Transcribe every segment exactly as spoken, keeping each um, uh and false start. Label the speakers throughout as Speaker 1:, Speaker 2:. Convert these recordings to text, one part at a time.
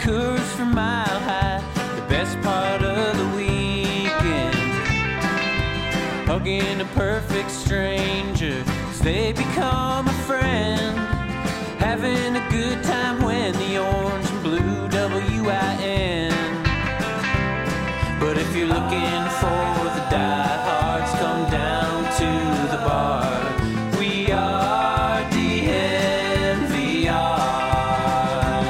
Speaker 1: Coors from Mile High, the best part of the weekend. Hugging a perfect stranger as they become a friend. Having a good time when the orange and blue W I N. But if you're looking for the diehards, come down to the bar. We are D N V R.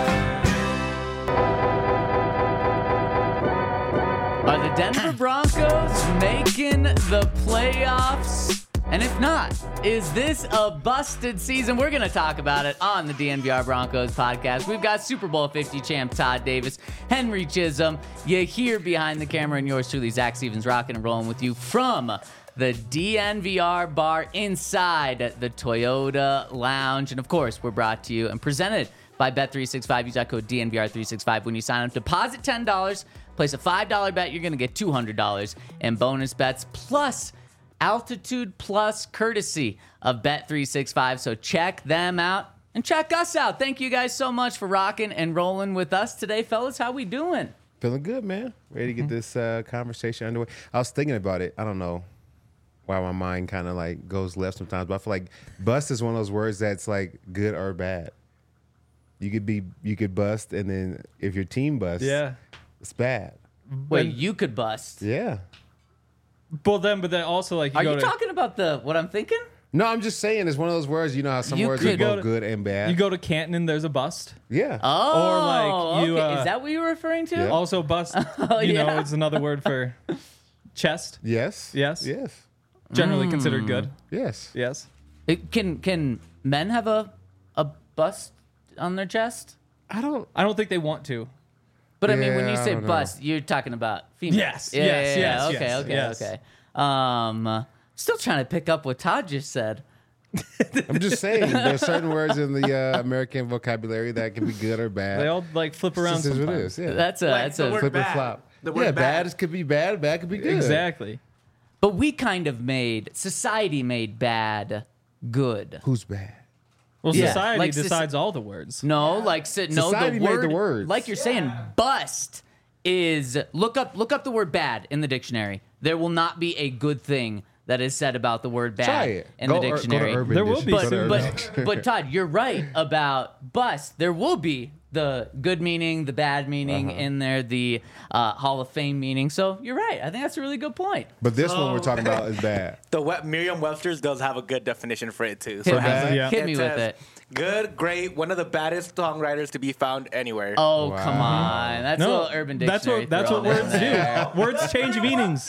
Speaker 2: Are the Denver Broncos making the playoffs? And if not, is this a busted season? We're going to talk about it on the D N V R Broncos podcast. We've got Super Bowl fifty champ Todd Davis, Henry Chisholm. You hear behind the camera, and yours truly, Zach Stevens, rocking and rolling with you from the D N V R bar inside the Toyota Lounge. And of course, we're brought to you and presented by Bet three sixty-five. Use that code D N V R three sixty-five when you sign up. Deposit ten dollars, place a five dollar bet. You're going to get two hundred dollars in bonus bets, plus Altitude Plus, courtesy of Bet three sixty-five. So check them out and check us out. Thank you guys so much for rocking and rolling with us today, fellas. How we doing?
Speaker 3: Feeling good, man. Ready to get this uh, conversation underway. I was thinking about it. I don't know why my mind kind of like goes left sometimes, but I feel like bust is one of those words that's like good or bad. You could be, you could bust, and then if your team busts,
Speaker 4: Yeah.
Speaker 3: it's bad.
Speaker 2: Wait, you could bust.
Speaker 3: Yeah.
Speaker 4: Well, then, but then also like you
Speaker 2: Are
Speaker 4: go
Speaker 2: you
Speaker 4: to,
Speaker 2: talking about the what I'm thinking?
Speaker 3: No, I'm just saying it's one of those words. You know how some
Speaker 2: You
Speaker 3: words
Speaker 2: could
Speaker 3: are
Speaker 4: go
Speaker 3: both
Speaker 4: to-
Speaker 3: good and bad.
Speaker 4: you go to Canton and there's a bust.
Speaker 3: yeah.
Speaker 2: Oh,
Speaker 4: like, you,
Speaker 2: okay.
Speaker 4: uh,
Speaker 2: Is that what you were referring to?
Speaker 3: Yeah.
Speaker 4: Also, bust.
Speaker 2: Oh,
Speaker 4: you
Speaker 2: yeah.
Speaker 4: know, it's another word for chest.
Speaker 3: yes.
Speaker 4: Yes.
Speaker 3: Yes.
Speaker 4: Generally considered good.
Speaker 3: Yes.
Speaker 4: Yes.
Speaker 2: It- can can men have a a bust on their chest?
Speaker 3: I don't.
Speaker 4: I don't think they want to.
Speaker 2: But I mean, when you
Speaker 3: Yeah, I
Speaker 2: say
Speaker 3: don't know.
Speaker 2: bust, you're talking about females.
Speaker 4: Yes,
Speaker 2: Yeah,
Speaker 4: yes,
Speaker 2: yeah,
Speaker 4: yes,
Speaker 2: yeah. Okay,
Speaker 4: yes,
Speaker 2: okay,
Speaker 4: yes.
Speaker 2: okay. Um, uh, still trying to pick up what Todd just said.
Speaker 3: I'm just saying there's certain words in the uh, American vocabulary that can be good or bad.
Speaker 4: They all like flip around
Speaker 3: This is what it
Speaker 4: sometimes.
Speaker 3: is. Yeah.
Speaker 2: That's a
Speaker 5: Like
Speaker 2: that's
Speaker 5: the
Speaker 2: a.
Speaker 5: word
Speaker 3: Flip and
Speaker 5: bad.
Speaker 3: flop.
Speaker 5: The word
Speaker 3: yeah,
Speaker 5: bad.
Speaker 3: bad could be bad. Bad could be good.
Speaker 4: Exactly.
Speaker 2: But we kind of made society made bad good.
Speaker 3: Who's bad?
Speaker 4: Well,
Speaker 2: Yeah,
Speaker 4: society
Speaker 2: like soci-
Speaker 4: decides all the words.
Speaker 2: No, like si- no,
Speaker 3: Society
Speaker 2: the
Speaker 3: made
Speaker 2: word,
Speaker 3: the words.
Speaker 2: like you're saying, bust is look up look up the word bad in the dictionary. There will not be a good thing that is said about the word bad
Speaker 3: Try it.
Speaker 2: in
Speaker 3: Go
Speaker 2: the
Speaker 3: or- go to
Speaker 2: dictionary.
Speaker 3: Urban
Speaker 4: There will be
Speaker 3: Dictionary.
Speaker 2: but
Speaker 3: Go to
Speaker 4: soon.
Speaker 3: Urban
Speaker 2: but but Todd, you're right about bust. There will be the good meaning, the bad meaning
Speaker 3: Uh-huh.
Speaker 2: in there, the uh, Hall of Fame meaning. So you're right. I think that's a really good point.
Speaker 3: But this one we're
Speaker 5: So-
Speaker 3: talking about is bad.
Speaker 5: The we- Merriam-Webster's does have a good definition for it too.
Speaker 2: Hit,
Speaker 5: So
Speaker 2: me,
Speaker 5: it has-
Speaker 4: Yeah.
Speaker 2: hit me
Speaker 5: it
Speaker 2: with
Speaker 5: says,
Speaker 2: it.
Speaker 5: Good, great, one of the baddest songwriters to be found anywhere.
Speaker 2: Oh
Speaker 3: Wow.
Speaker 2: come on, that's a little Urban
Speaker 4: that's
Speaker 2: Dictionary.
Speaker 4: what that's what
Speaker 2: thrown in
Speaker 4: words
Speaker 2: there.
Speaker 4: do. Words change meanings.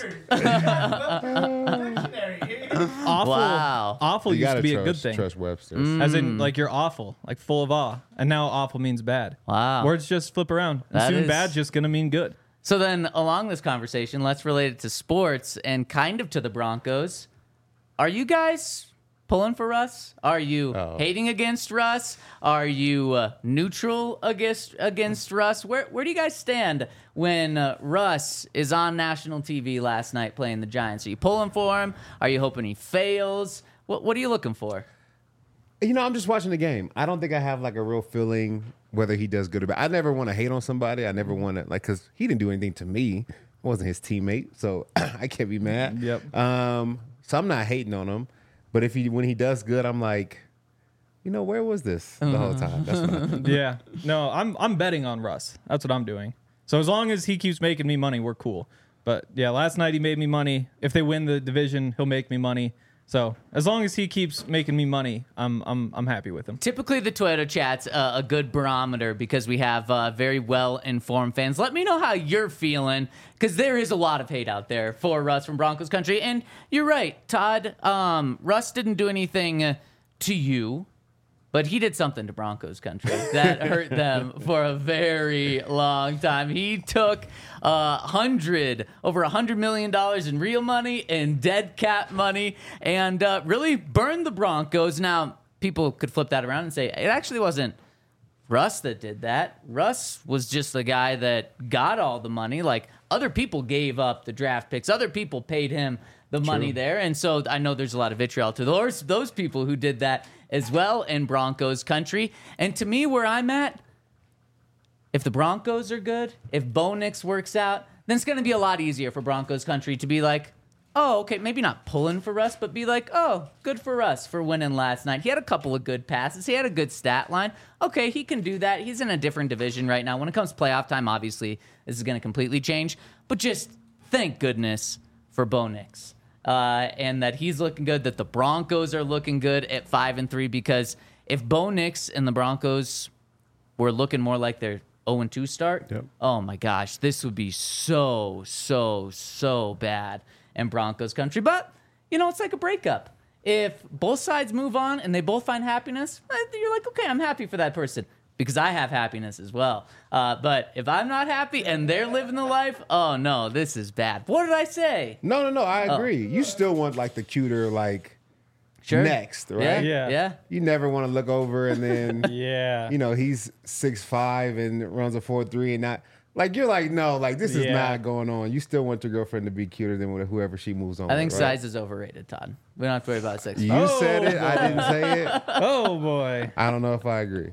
Speaker 4: Awful,
Speaker 2: Wow.
Speaker 4: awful
Speaker 3: You
Speaker 4: used
Speaker 3: gotta
Speaker 4: to be
Speaker 3: trust,
Speaker 4: a good thing.
Speaker 3: trust Webster.
Speaker 4: As in, like you're awful, like full of awe, and now awful means bad.
Speaker 2: Wow.
Speaker 4: Words just flip around. And
Speaker 2: That
Speaker 4: soon
Speaker 2: is-
Speaker 4: bad's just gonna mean good.
Speaker 2: So then, along this conversation, let's relate it to sports and kind of to the Broncos. Are you guys pulling for Russ? Are you
Speaker 3: Oh.
Speaker 2: hating against Russ? Are you uh, neutral against against Russ? Where where do you guys stand when uh, Russ is on national T V last night playing the Giants? Are you pulling for him? Are you hoping he fails? What what are you looking for?
Speaker 3: You know, I'm just watching the game. I don't think I have like a real feeling whether he does good or bad. I never want to hate on somebody. I never want to like because he didn't do anything to me. I wasn't his teammate, so I can't be mad.
Speaker 4: Yep.
Speaker 3: Um. So I'm not hating on him, but if he when he does good, I'm like, you know, where was this the whole time? That's what I think.
Speaker 4: Yeah. No, I'm I'm betting on Russ. That's what I'm doing. So as long as he keeps making me money, we're cool. But yeah, last night he made me money. If they win the division, he'll make me money. So as long as he keeps making me money, I'm I'm I'm happy with him.
Speaker 2: Typically, the Toyota Chat's uh, a good barometer because we have uh, very well-informed fans. Let me know how you're feeling because there is a lot of hate out there for Russ from Broncos country. And you're right, Todd. Um, Russ didn't do anything uh, to you, but he did something to Broncos country that hurt them for a very long time. He took uh, hundred over a hundred million dollars in real money and dead cap money, and uh, really burned the Broncos. Now, people could flip that around and say it actually wasn't Russ that did that. Russ was just the guy that got all the money. Like other people gave up the draft picks, other people paid him the money there, and so I know there's a lot of vitriol to those those people who did that as well in Broncos country. And to me, where I'm at, if the Broncos are good, if Bo Nix works out, then it's going to be a lot easier for Broncos country to be like, oh, okay, maybe not pulling for Russ, but be like, oh, good for Russ for winning last night. He had a couple of good passes. He had a good stat line. Okay, he can do that. He's in a different division right now. When it comes to playoff time, obviously, this is going to completely change. But just thank goodness for Bo Nix. Uh, and that he's looking good, that the Broncos are looking good at five and three, because if Bo Nix and the Broncos were looking more like their oh and two start,
Speaker 3: Yep.
Speaker 2: oh my gosh, this would be so, so, so bad in Broncos country. But, you know, it's like a breakup. If both sides move on and they both find happiness, eh, you're like, okay, I'm happy for that person because I have happiness as well. Uh, but if I'm not happy and they're living the life, oh no, this is bad. What did I say?
Speaker 3: No, no, no. I
Speaker 2: Oh.
Speaker 3: agree. You still want like the cuter, like
Speaker 2: Sure.
Speaker 3: next, right?
Speaker 2: Yeah.
Speaker 4: Yeah.
Speaker 2: Yeah.
Speaker 3: You never want to look over and then,
Speaker 4: Yeah.
Speaker 3: you know, he's six five and runs a four three and not like you're like no, like this is
Speaker 4: Yeah.
Speaker 3: not going on. You still want your girlfriend to be cuter than whoever she moves on.
Speaker 2: I think
Speaker 3: with, right?
Speaker 2: size is overrated, Todd. We don't have to worry about sex.
Speaker 3: You
Speaker 4: Oh,
Speaker 3: said it. I didn't say it.
Speaker 4: Oh boy.
Speaker 3: I don't know if I agree.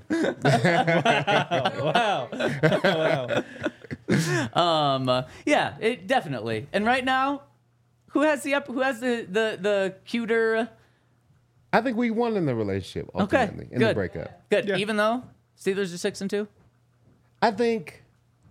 Speaker 4: Wow. Wow.
Speaker 2: Um, uh, yeah, it definitely. And right now, who has the up? Who has the the the cuter?
Speaker 3: I think we won in the relationship
Speaker 2: Okay,
Speaker 3: ultimately in
Speaker 2: good.
Speaker 3: the breakup.
Speaker 2: Good.
Speaker 4: Yeah.
Speaker 2: Even though Steelers are six and two.
Speaker 3: I think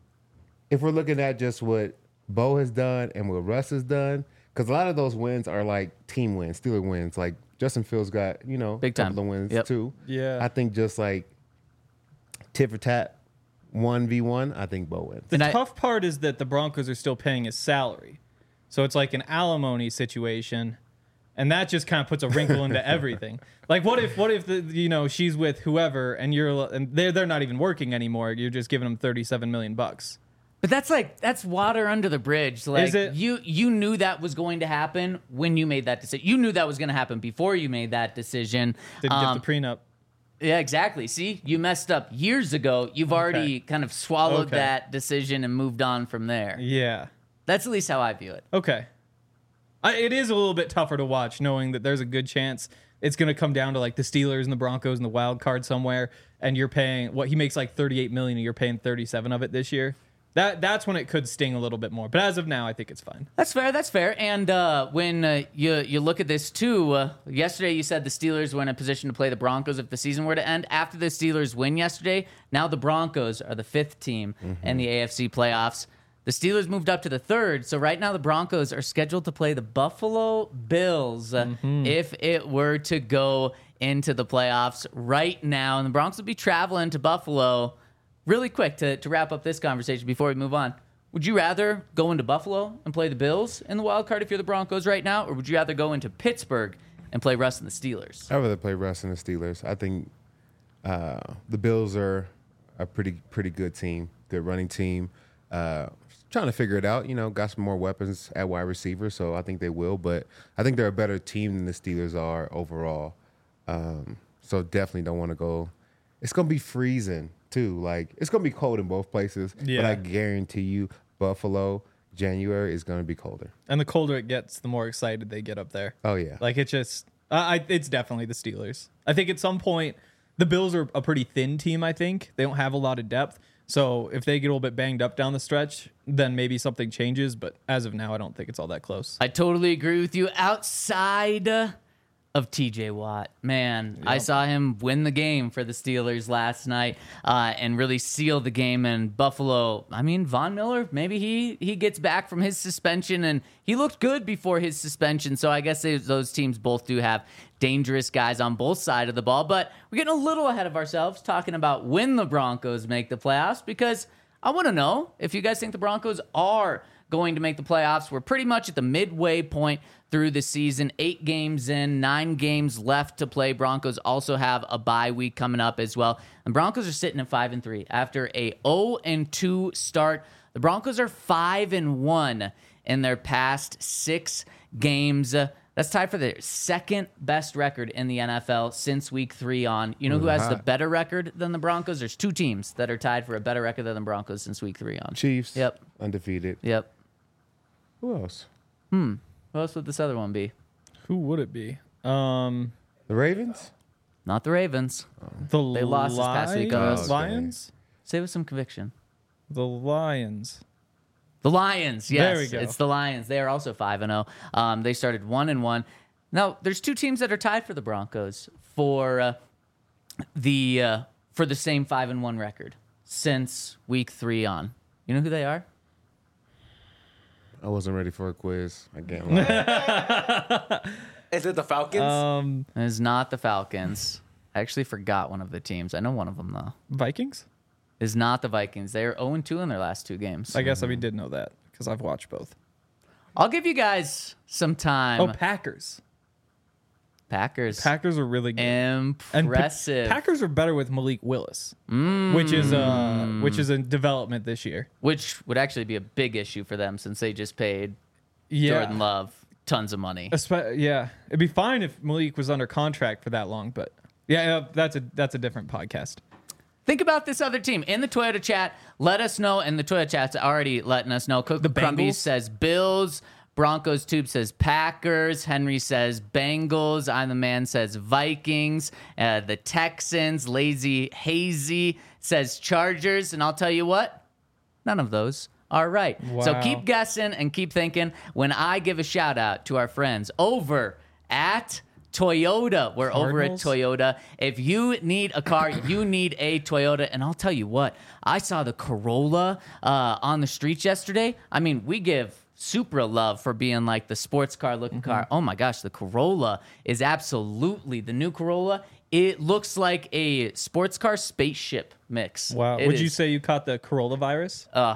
Speaker 3: if we're looking at just what Bo has done and what Russ has done, because a lot of those wins are like team wins, Steeler wins. Like Justin Fields got, you know,
Speaker 2: Big
Speaker 3: a couple
Speaker 2: time.
Speaker 3: of wins
Speaker 2: Yep.
Speaker 3: too.
Speaker 4: Yeah.
Speaker 3: I think just like tit for tat, one v one. I think Bo wins.
Speaker 4: The
Speaker 2: And I-
Speaker 4: tough part is that the Broncos are still paying his salary. So it's like an alimony situation. And that just kind of puts a wrinkle into everything. Like, what if, what if the, you know, she's with whoever, and you're, and they're they're not even working anymore. You're just giving them thirty-seven million bucks.
Speaker 2: But that's like that's water under the bridge. Like
Speaker 4: Is it?
Speaker 2: you you knew that was going to happen when you made that decision. You knew that was going to happen before you made that decision.
Speaker 4: Didn't
Speaker 2: Um,
Speaker 4: get the prenup.
Speaker 2: Yeah, exactly. See, you messed up years ago. You've already kind of swallowed
Speaker 4: Okay.
Speaker 2: that decision and moved on from there.
Speaker 4: Yeah.
Speaker 2: That's at least how I view it.
Speaker 4: Okay. I, it is a little bit tougher to watch, knowing that there's a good chance it's going to come down to like the Steelers and the Broncos and the wild card somewhere, and you're paying what he makes like thirty-eight million, and you're paying thirty-seven of it this year. That that's when it could sting a little bit more. But as of now, I think it's fine.
Speaker 2: That's fair. That's fair. And uh, when uh, you you look at this too, uh, yesterday you said the Steelers were in a position to play the Broncos if the season were to end. After the Steelers win yesterday, now the Broncos are the fifth team in the A F C playoffs. The Steelers moved up to the third, so right now the Broncos are scheduled to play the Buffalo Bills uh, if it were to go into the playoffs right now. And the Broncos will be traveling to Buffalo really quick to, to wrap up this conversation before we move on. Would you rather go into Buffalo and play the Bills in the wild card if you're the Broncos right now, or would you rather go into Pittsburgh and play Russ and the Steelers?
Speaker 3: I'd rather play Russ and the Steelers. I think uh, the Bills are a pretty pretty good team, good running team. Uh, trying to figure it out. You know, got some more weapons at wide receiver, so I think they will. But I think they're a better team than the Steelers are overall. Um, so definitely don't want to go. It's gonna be freezing too. Like it's gonna be cold in both places.
Speaker 4: Yeah.
Speaker 3: But I guarantee you, Buffalo, January is gonna be colder.
Speaker 4: And the colder it gets, the more excited they get up there.
Speaker 3: Oh yeah.
Speaker 4: Like it just, I, I it's definitely the Steelers. I think at some point the Bills are a pretty thin team. I think they don't have a lot of depth. So if they get a little bit banged up down the stretch, then maybe something changes. But as of now, I don't think it's all that close.
Speaker 2: I totally agree with you. Outside of T J Watt, man, I saw him win the game for the Steelers last night uh, and really seal the game in Buffalo. I mean, Von Miller, maybe he he gets back from his suspension, and he looked good before his suspension. So I guess they, those teams both do have dangerous guys on both sides of the ball. But we're getting a little ahead of ourselves talking about when the Broncos make the playoffs, because I want to know if you guys think the Broncos are going to make the playoffs. We're pretty much at the midway point through the season. Eight games in, nine games left to play. Broncos also have a bye week coming up as well. And Broncos are sitting at five and three after a oh and two start. The Broncos are five and one in their past six games. Uh, That's tied for the second best record in the N F L since week three on. You know who has the better record than the Broncos? There's two teams that are tied for a better record than the Broncos since week three on.
Speaker 3: Chiefs.
Speaker 2: Yep.
Speaker 3: Undefeated.
Speaker 2: Yep.
Speaker 3: Who else?
Speaker 2: Who else would this other one be?
Speaker 4: Who would it be? Um,
Speaker 3: The Ravens?
Speaker 2: Not the Ravens.
Speaker 4: the
Speaker 2: They lost this past week,
Speaker 4: Lions?
Speaker 2: uh,
Speaker 3: Okay.
Speaker 4: Lions?
Speaker 2: Say with some conviction.
Speaker 4: The Lions.
Speaker 2: The Lions, yes.
Speaker 4: There we go.
Speaker 2: It's the Lions. They are also five and oh. Um, they started one and one. Now, there's two teams that are tied for the Broncos for uh, the uh, for the same five and one record since week three on. You know who they are?
Speaker 3: I wasn't ready for a quiz. I can't lie.
Speaker 5: Is it the Falcons?
Speaker 4: Um,
Speaker 2: It is not the Falcons. I actually forgot one of the teams. I know one of them, though.
Speaker 4: Vikings?
Speaker 2: Is not the Vikings. They are oh and two in their last two games.
Speaker 4: I guess I did know that because I've watched both.
Speaker 2: I'll give you guys some time.
Speaker 4: Oh, Packers.
Speaker 2: Packers.
Speaker 4: Packers are really good. And Pa-
Speaker 2: Impressive.
Speaker 4: Packers are better with Malik Willis, which is uh which is a development this year.
Speaker 2: Which would actually be a big issue for them since they just paid
Speaker 4: Yeah.
Speaker 2: Jordan Love tons of money.
Speaker 4: Espe- yeah, it'd be fine if Malik was under contract for that long, but yeah, uh, that's a that's a different podcast.
Speaker 2: Think about this other team in the Toyota chat. Let us know, and the Toyota chat's already letting us know. Cook
Speaker 4: The
Speaker 2: Crumby
Speaker 4: Bengals?
Speaker 2: says Bills. Broncos Tube says Packers. Henry says Bengals. I'm the Man says Vikings. Uh, the Texans. Lazy Hazy says Chargers. And I'll tell you what, none of those are right. So
Speaker 4: Wow.
Speaker 2: keep guessing and keep thinking when I give a shout out to our friends over at Toyota. We're
Speaker 4: Cardinals?
Speaker 2: over at Toyota. If you need a car, you need a Toyota. And I'll tell you what, I saw the Corolla uh, on the streets yesterday. I mean, we give Supra love for being like the sports car looking car. Oh my gosh, the Corolla is absolutely the new Corolla. It looks like a sports car spaceship mix.
Speaker 4: Wow,
Speaker 2: It
Speaker 4: would you
Speaker 2: is-
Speaker 4: say you caught the Corolla virus?
Speaker 2: Uh,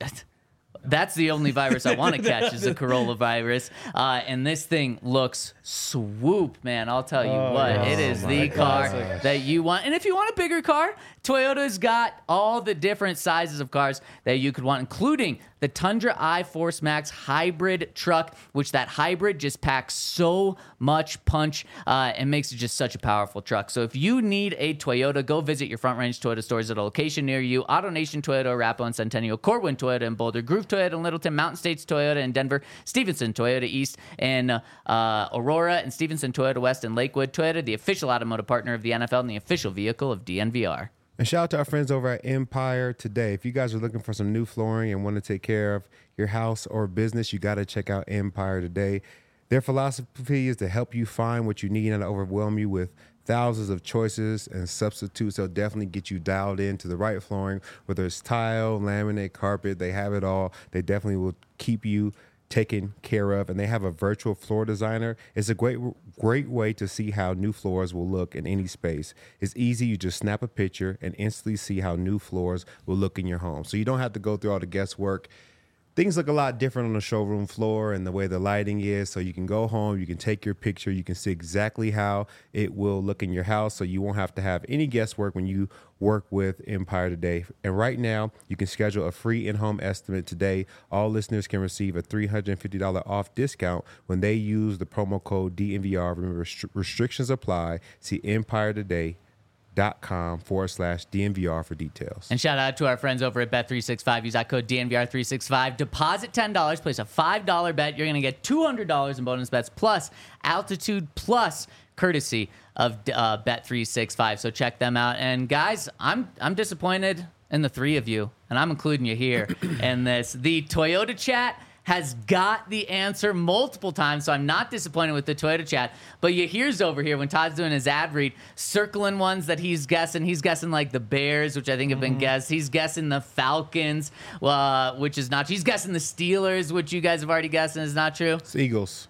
Speaker 2: that's the only virus I want to catch is the Corolla virus. Uh, and this thing looks swoop, man. I'll tell you
Speaker 4: Oh,
Speaker 2: what,
Speaker 4: yeah.
Speaker 2: it is
Speaker 3: Oh,
Speaker 2: the
Speaker 3: my
Speaker 2: car
Speaker 3: gosh.
Speaker 2: that you want. And if you want a bigger car, Toyota's got all the different sizes of cars that you could want, including the Tundra iForce Max hybrid truck, which that hybrid just packs so much punch uh, and makes it just such a powerful truck. So if you need a Toyota, go visit your Front Range Toyota stores at a location near you. AutoNation Toyota, Arapahoe and Centennial, Corwin Toyota in Boulder, Groove Toyota in Littleton, Mountain States Toyota in Denver, Stevenson Toyota East in uh, uh, Aurora, and Stevenson Toyota West in Lakewood. Toyota, the official automotive partner of the N F L and the official vehicle of D N V R.
Speaker 3: And shout out to our friends over at Empire Today. If you guys are looking for some new flooring and want to take care of your house or business, you got to check out Empire Today. Their philosophy is to help you find what you need and not overwhelm you with thousands of choices and substitutes. They'll definitely get you dialed into the right flooring, whether it's tile, laminate, carpet. They have it all. They definitely will keep you taken care of, and they have a virtual floor designer. It's a great great way to see how new floors will look in any space. It's easy. You just snap a picture and instantly see how new floors will look in your home. So you don't have to go through all the guesswork. Things look a lot different on the showroom floor and the way the lighting is. So you can go home, you can take your picture, you can see exactly how it will look in your house. So you won't have to have any guesswork when you work with Empire Today. And right now, you can schedule a free in-home estimate today. All listeners can receive a three hundred fifty dollars off discount when they use the promo code D N V R. Remember, restri- restrictions apply. See Empire Today. Dot com forward slash D N V R for details.
Speaker 2: And shout out to our friends over at Bet three sixty-five. Use that code D N V R three sixty-five. Deposit ten dollars. Place a five dollar bet. You're going to get two hundred dollars in bonus bets plus Altitude Plus, courtesy of uh, Bet three sixty-five. So check them out. And guys, I'm I'm disappointed in the three of you, and I'm including you here in this. The Toyota chat has got the answer multiple times, so I'm not disappointed with the Toyota chat. But you hears over here when Todd's doing his ad read, circling ones that he's guessing. He's guessing like the Bears, which I think have been guessed. He's guessing the Falcons, uh, which is not true. He's guessing the Steelers, which you guys have already guessed and is not true.
Speaker 3: It's Eagles.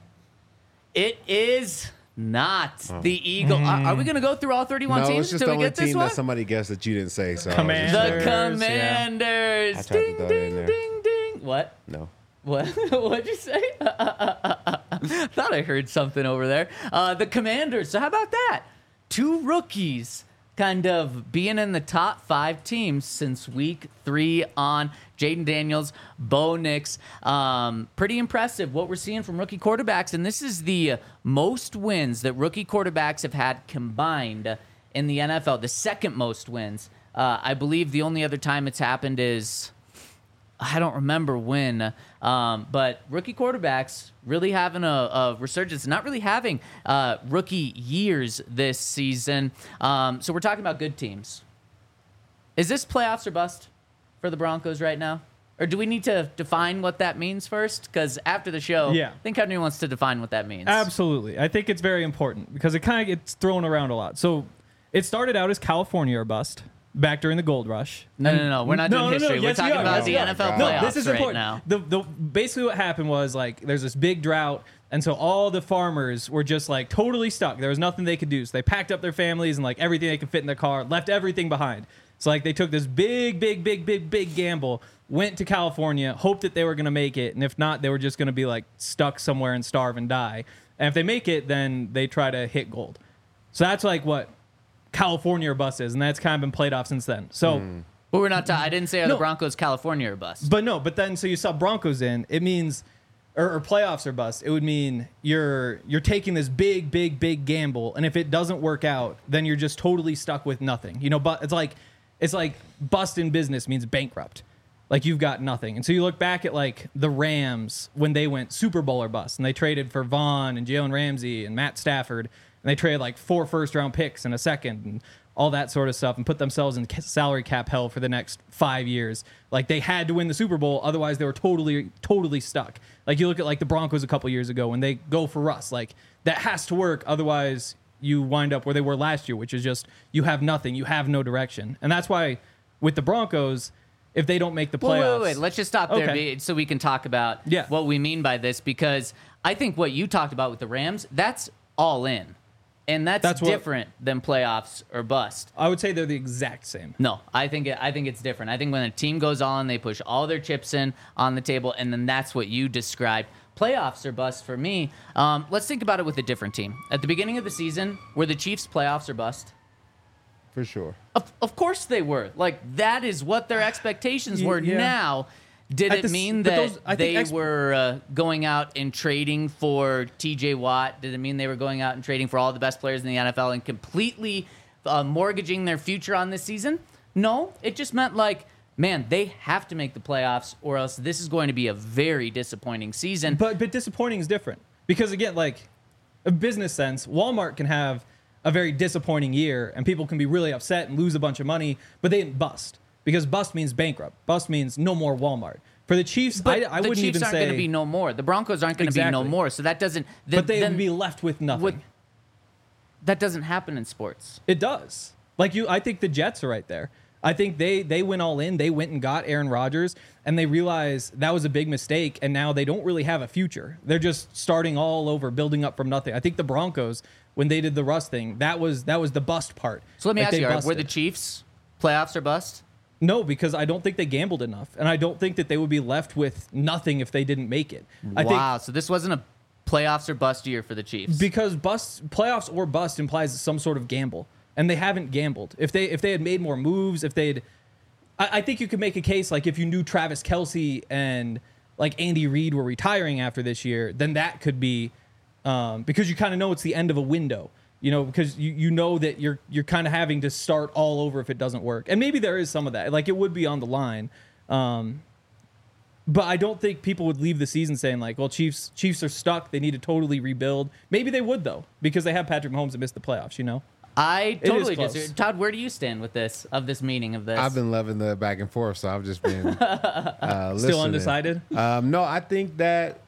Speaker 2: It is not the Eagle. Are, are we going to go through all thirty-one
Speaker 3: No,
Speaker 2: teams
Speaker 3: it's just
Speaker 2: until
Speaker 3: the
Speaker 2: we
Speaker 3: only
Speaker 2: get this
Speaker 3: team
Speaker 2: one?
Speaker 3: that somebody guessed that you didn't say. So I was just
Speaker 4: Commanders.
Speaker 2: The
Speaker 3: like,
Speaker 4: yeah.
Speaker 2: Commanders.
Speaker 3: I tried to
Speaker 2: Ding,
Speaker 3: throw it in
Speaker 2: ding,
Speaker 3: there.
Speaker 2: ding, ding. What?
Speaker 3: no.
Speaker 2: What? What'd you say? Thought I heard something over there. Uh, the Commanders. So how about that? Two rookies kind of being in the top five teams since week three on. Jaden Daniels, Bo Nix. Um, pretty impressive what we're seeing from rookie quarterbacks. And this is the most wins that rookie quarterbacks have had combined in the N F L. The second most wins. Uh, I believe the only other time it's happened is... I don't remember when, um, but rookie quarterbacks really having a, a resurgence, not really having uh, rookie years this season. Um, so we're talking about good teams. Is this playoffs or bust for the Broncos right now? Or do we need to define what that means first? Because after the show,
Speaker 4: Yeah.
Speaker 2: I think Henry wants to define what that means.
Speaker 4: Absolutely. I think it's very important because it kind of gets thrown around a lot. So it started out as California or bust back during the gold rush.
Speaker 2: No, no, no. We're not doing history. We're
Speaker 4: Yes, we
Speaker 2: talking
Speaker 4: are.
Speaker 2: about
Speaker 4: Yes,
Speaker 2: the
Speaker 4: we are.
Speaker 2: N F L
Speaker 3: No,
Speaker 2: playoffs
Speaker 4: this is
Speaker 2: right
Speaker 4: important.
Speaker 2: now.
Speaker 4: The, the, basically what happened was like there's this big drought, and so all the farmers were just like totally stuck. There was nothing they could do. So they packed up their families and like everything they could fit in their car, left everything behind. So like they took this big, big, big, big, big gamble, went to California, hoped that they were going to make it, and if not, they were just going to be like stuck somewhere and starve and die. And if they make it, then they try to hit gold. So that's like what California or bust is, and that's kind of been played off since then. So,
Speaker 2: But we're not. Ta- I didn't say are the
Speaker 4: No.
Speaker 2: Broncos California or bust.
Speaker 4: but no, but then so you saw Broncos in, it means or, or playoffs or bust. It would mean you're you're taking this big, big, big gamble, and if it doesn't work out, then you're just totally stuck with nothing. You know, but it's like it's like bust in business means bankrupt. Like you've got nothing. And so you look back at like the Rams when they went Super Bowl or bust, and they traded for Vaughn and Jalen Ramsey and Matt Stafford, and they traded like four first round picks and a second and all that sort of stuff, and put themselves in ca- salary cap hell for the next five years. Like they had to win the Super Bowl, otherwise they were totally, totally stuck. Like you look at like the Broncos a couple years ago when they go for Russ, like that has to work, otherwise you wind up where they were last year, which is just you have nothing, you have no direction. And that's why with the Broncos, if they don't make the
Speaker 2: Well,
Speaker 4: playoffs,
Speaker 2: wait, wait, wait. Let's just stop there
Speaker 4: Okay.
Speaker 2: be- so we can talk about
Speaker 4: Yeah.
Speaker 2: what we mean by this, because I think what you talked about with the Rams, that's all in. And that's,
Speaker 4: That's what-
Speaker 2: different than playoffs or bust.
Speaker 4: I would say they're the exact same.
Speaker 2: No, I think it, I think it's different. I think when a team goes on, they push all their chips in on the table, and then that's what you described. Playoffs or bust for me. Um, let's think about it with a different team. At the beginning of the season, were the Chiefs playoffs or bust?
Speaker 3: For sure.
Speaker 2: Of, of course they were. Like, that is what their expectations
Speaker 4: Y-
Speaker 2: were.
Speaker 4: yeah.
Speaker 2: Now, did
Speaker 4: At
Speaker 2: it
Speaker 4: the s-
Speaker 2: mean
Speaker 4: but
Speaker 2: that
Speaker 4: those- I think
Speaker 2: they
Speaker 4: ex-
Speaker 2: were uh, going out and trading for T J Watt? Did it mean they were going out and trading for all the best players in the N F L and completely uh, mortgaging their future on this season? No, it just meant like, man, they have to make the playoffs or else this is going to be a very disappointing season.
Speaker 4: But but disappointing is different because again, like a business sense, Walmart can have a very disappointing year and people can be really upset and lose a bunch of money, but they didn't bust because bust means bankrupt. Bust means no more Walmart. For the Chiefs,
Speaker 2: But
Speaker 4: I, I
Speaker 2: the
Speaker 4: wouldn't
Speaker 2: Chiefs
Speaker 4: even
Speaker 2: aren't
Speaker 4: say.
Speaker 2: going to be no more. The Broncos aren't going to be no
Speaker 4: Exactly.
Speaker 2: more. So that doesn't. th-
Speaker 4: but they
Speaker 2: then
Speaker 4: would be left with nothing.
Speaker 2: what- that doesn't happen in sports.
Speaker 4: It does. Like you, I think the Jets are right there. I think they they went all in. They went and got Aaron Rodgers, and they realized that was a big mistake. And now they don't really have a future. They're just starting all over, building up from nothing. I think the Broncos, when they did the Russ thing, that was that was the bust part.
Speaker 2: So let me
Speaker 4: Like,
Speaker 2: ask
Speaker 4: they
Speaker 2: you: are- Were
Speaker 4: busted.
Speaker 2: the Chiefs playoffs or bust?
Speaker 4: No, because I don't think they gambled enough, and I don't think that they would be left with nothing if they didn't make it. I think
Speaker 2: Wow. So this wasn't a playoffs or bust year for the Chiefs.
Speaker 4: because bust playoffs or bust implies some sort of gamble, and they haven't gambled. If they if they had made more moves, if they'd, I, I think you could make a case like if you knew Travis Kelce and like Andy Reid were retiring after this year, then that could be um, because you kind of know it's the end of a window. You know, because you, you know that you're you're kind of having to start all over if it doesn't work, and maybe there is some of that. Like it would be on the line. Um, But I don't think people would leave the season saying like, "Well, Chiefs Chiefs are stuck. They need to totally rebuild." Maybe they would though, because they have Patrick Mahomes that missed the playoffs. You know,
Speaker 2: I
Speaker 4: is
Speaker 2: totally
Speaker 4: close.
Speaker 2: disagree. Todd, where do you stand with this of this meaning of this?
Speaker 3: I've been loving the back and forth, so I've just been uh, listening.
Speaker 4: still undecided.
Speaker 3: Um, no, I think that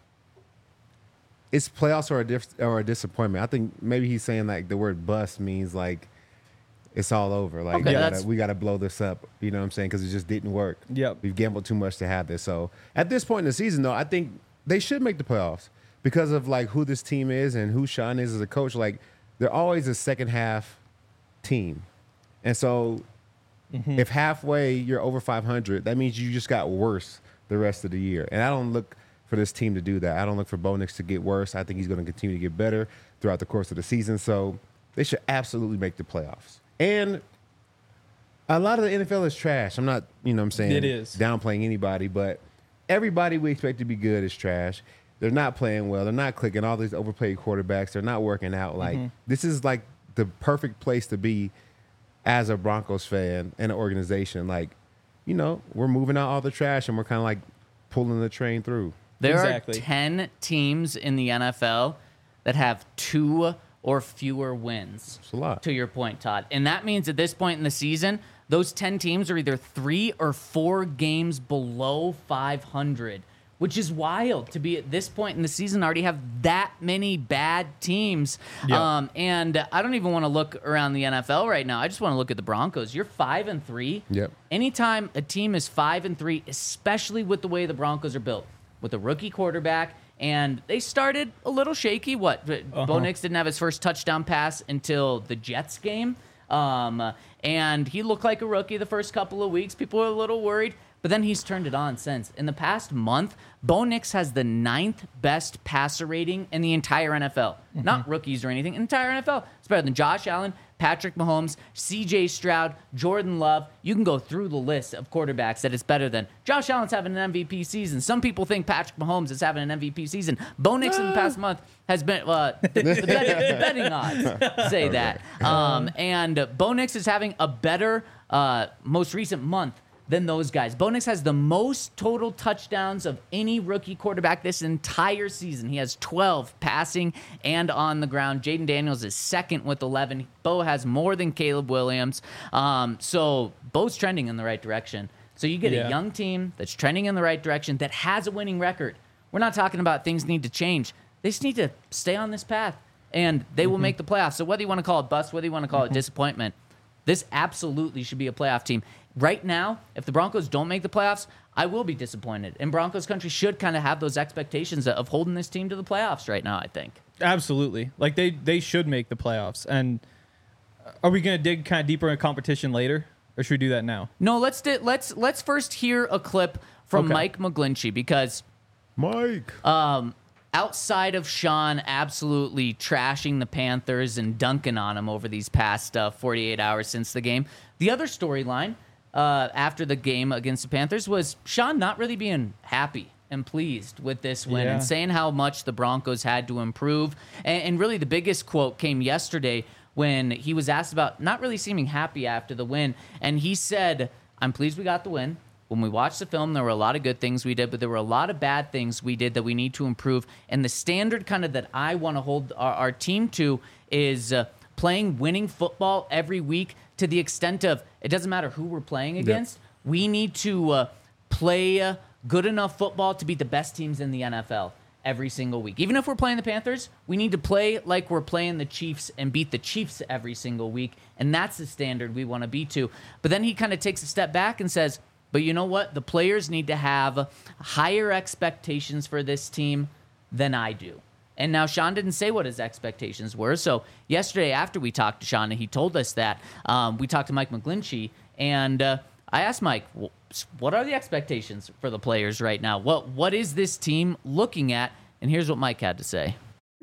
Speaker 3: it's playoffs or a diff- or a disappointment. I think maybe he's saying like the word bust means like it's all over. Like
Speaker 2: Okay,
Speaker 3: we,
Speaker 2: that's-
Speaker 3: gotta, we gotta blow this up. You know what I'm saying? Because it just didn't work.
Speaker 4: Yep.
Speaker 3: We've gambled too much to have this. So at this point in the season, though, I think they should make the playoffs because of like who this team is and who Sean is as a coach. Like they're always a second half team, and so if halfway you're over five hundred, that means you just got worse the rest of the year. And I don't look for this team to do that. I don't look for Bo Nix to get worse. I think he's going to continue to get better throughout the course of the season. So they should absolutely make the playoffs. And a lot of the N F L is trash. I'm not, you know what I'm saying,
Speaker 4: It is.
Speaker 3: downplaying anybody, but everybody we expect to be good is trash. They're not playing well. They're not clicking. All these overplayed quarterbacks, they're not working out. Like, this is like the perfect place to be as a Broncos fan and an organization. Like, you know, we're moving out all the trash and we're kind of like pulling the train through.
Speaker 2: There
Speaker 4: Exactly.
Speaker 2: are ten teams in the N F L that have two or fewer wins.
Speaker 3: It's a lot.
Speaker 2: To your point, Todd. And that means at this point in the season, those ten teams are either three or four games below five hundred, which is wild to be at this point in the season, already have that many bad teams.
Speaker 4: Yep.
Speaker 2: Um, and I don't even want to look around the N F L right now. I just want to look at the Broncos. You're five and three.
Speaker 3: Yep.
Speaker 2: Anytime a team is five and three, especially with the way the Broncos are built, with a rookie quarterback, and they started a little shaky. What? Uh-huh. Bo Nix didn't have his first touchdown pass until the Jets game. Um, and he looked like a rookie the first couple of weeks. People were a little worried, but then he's turned it on since. In the past month, Bo Nix has the ninth best passer rating in the entire N F L. Mm-hmm. Not rookies or anything, entire N F L. It's better than Josh Allen, Patrick Mahomes, C J Stroud, Jordan Love. You can go through the list of quarterbacks that it's better than. Josh Allen's having an M V P season. Some people think Patrick Mahomes is having an M V P season. Bo Nix in the past month has been, uh, the, the, betting, the betting odds say that. Um, and Bo Nix is having a better uh, most recent month than those guys. Bo Nix has the most total touchdowns of any rookie quarterback this entire season. He has twelve passing and on the ground. Jaden Daniels is second with eleven. Bo has more than Caleb Williams. Um, so Bo's trending in the right direction. So you get
Speaker 4: Yeah.
Speaker 2: a young team that's trending in the right direction that has a winning record. We're not talking about things need to change. They just need to stay on this path, and they will make the playoffs. So whether you want to call it bust, whether you want to call it disappointment, this absolutely should be a playoff team. Right now, if the Broncos don't make the playoffs, I will be disappointed. And Broncos country should kind of have those expectations of holding this team to the playoffs right now, I think.
Speaker 4: Absolutely. Like, they, they should make the playoffs. And are we going to dig kind of deeper into competition later? Or should we do that now?
Speaker 2: No, let's di- let's let's first hear a clip from
Speaker 4: Okay.
Speaker 2: Mike McGlinchey, because
Speaker 3: Mike.
Speaker 2: um, outside of Sean absolutely trashing the Panthers and dunking on them over these past uh, forty-eight hours since the game, the other storyline uh, after the game against the Panthers was Sean not really being happy and pleased with this win,
Speaker 4: Yeah.
Speaker 2: and saying how much the Broncos had to improve. And, and really the biggest quote came yesterday when he was asked about not really seeming happy after the win. And he said, "I'm pleased we got the win. When we watched the film, there were a lot of good things we did, but there were a lot of bad things we did that we need to improve. And the standard kind of that I want to hold our, our team to is uh, playing winning football every week, to the extent of it doesn't matter who we're playing against. We need to uh, play uh, good enough football to beat the best teams in the N F L every single week. Even if we're playing the Panthers, we need to play like we're playing the Chiefs and beat the Chiefs every single week. And that's the standard we want to be to." But then he kind of takes a step back and says, "But you know what? The players need to have higher expectations for this team than I do." And now Sean didn't say what his expectations were. So yesterday after we talked to Sean and he told us that, um, we talked to Mike McGlinchey, and uh, I asked Mike, well, what are the expectations for the players right now? What What is this team looking at? And here's what Mike had to say.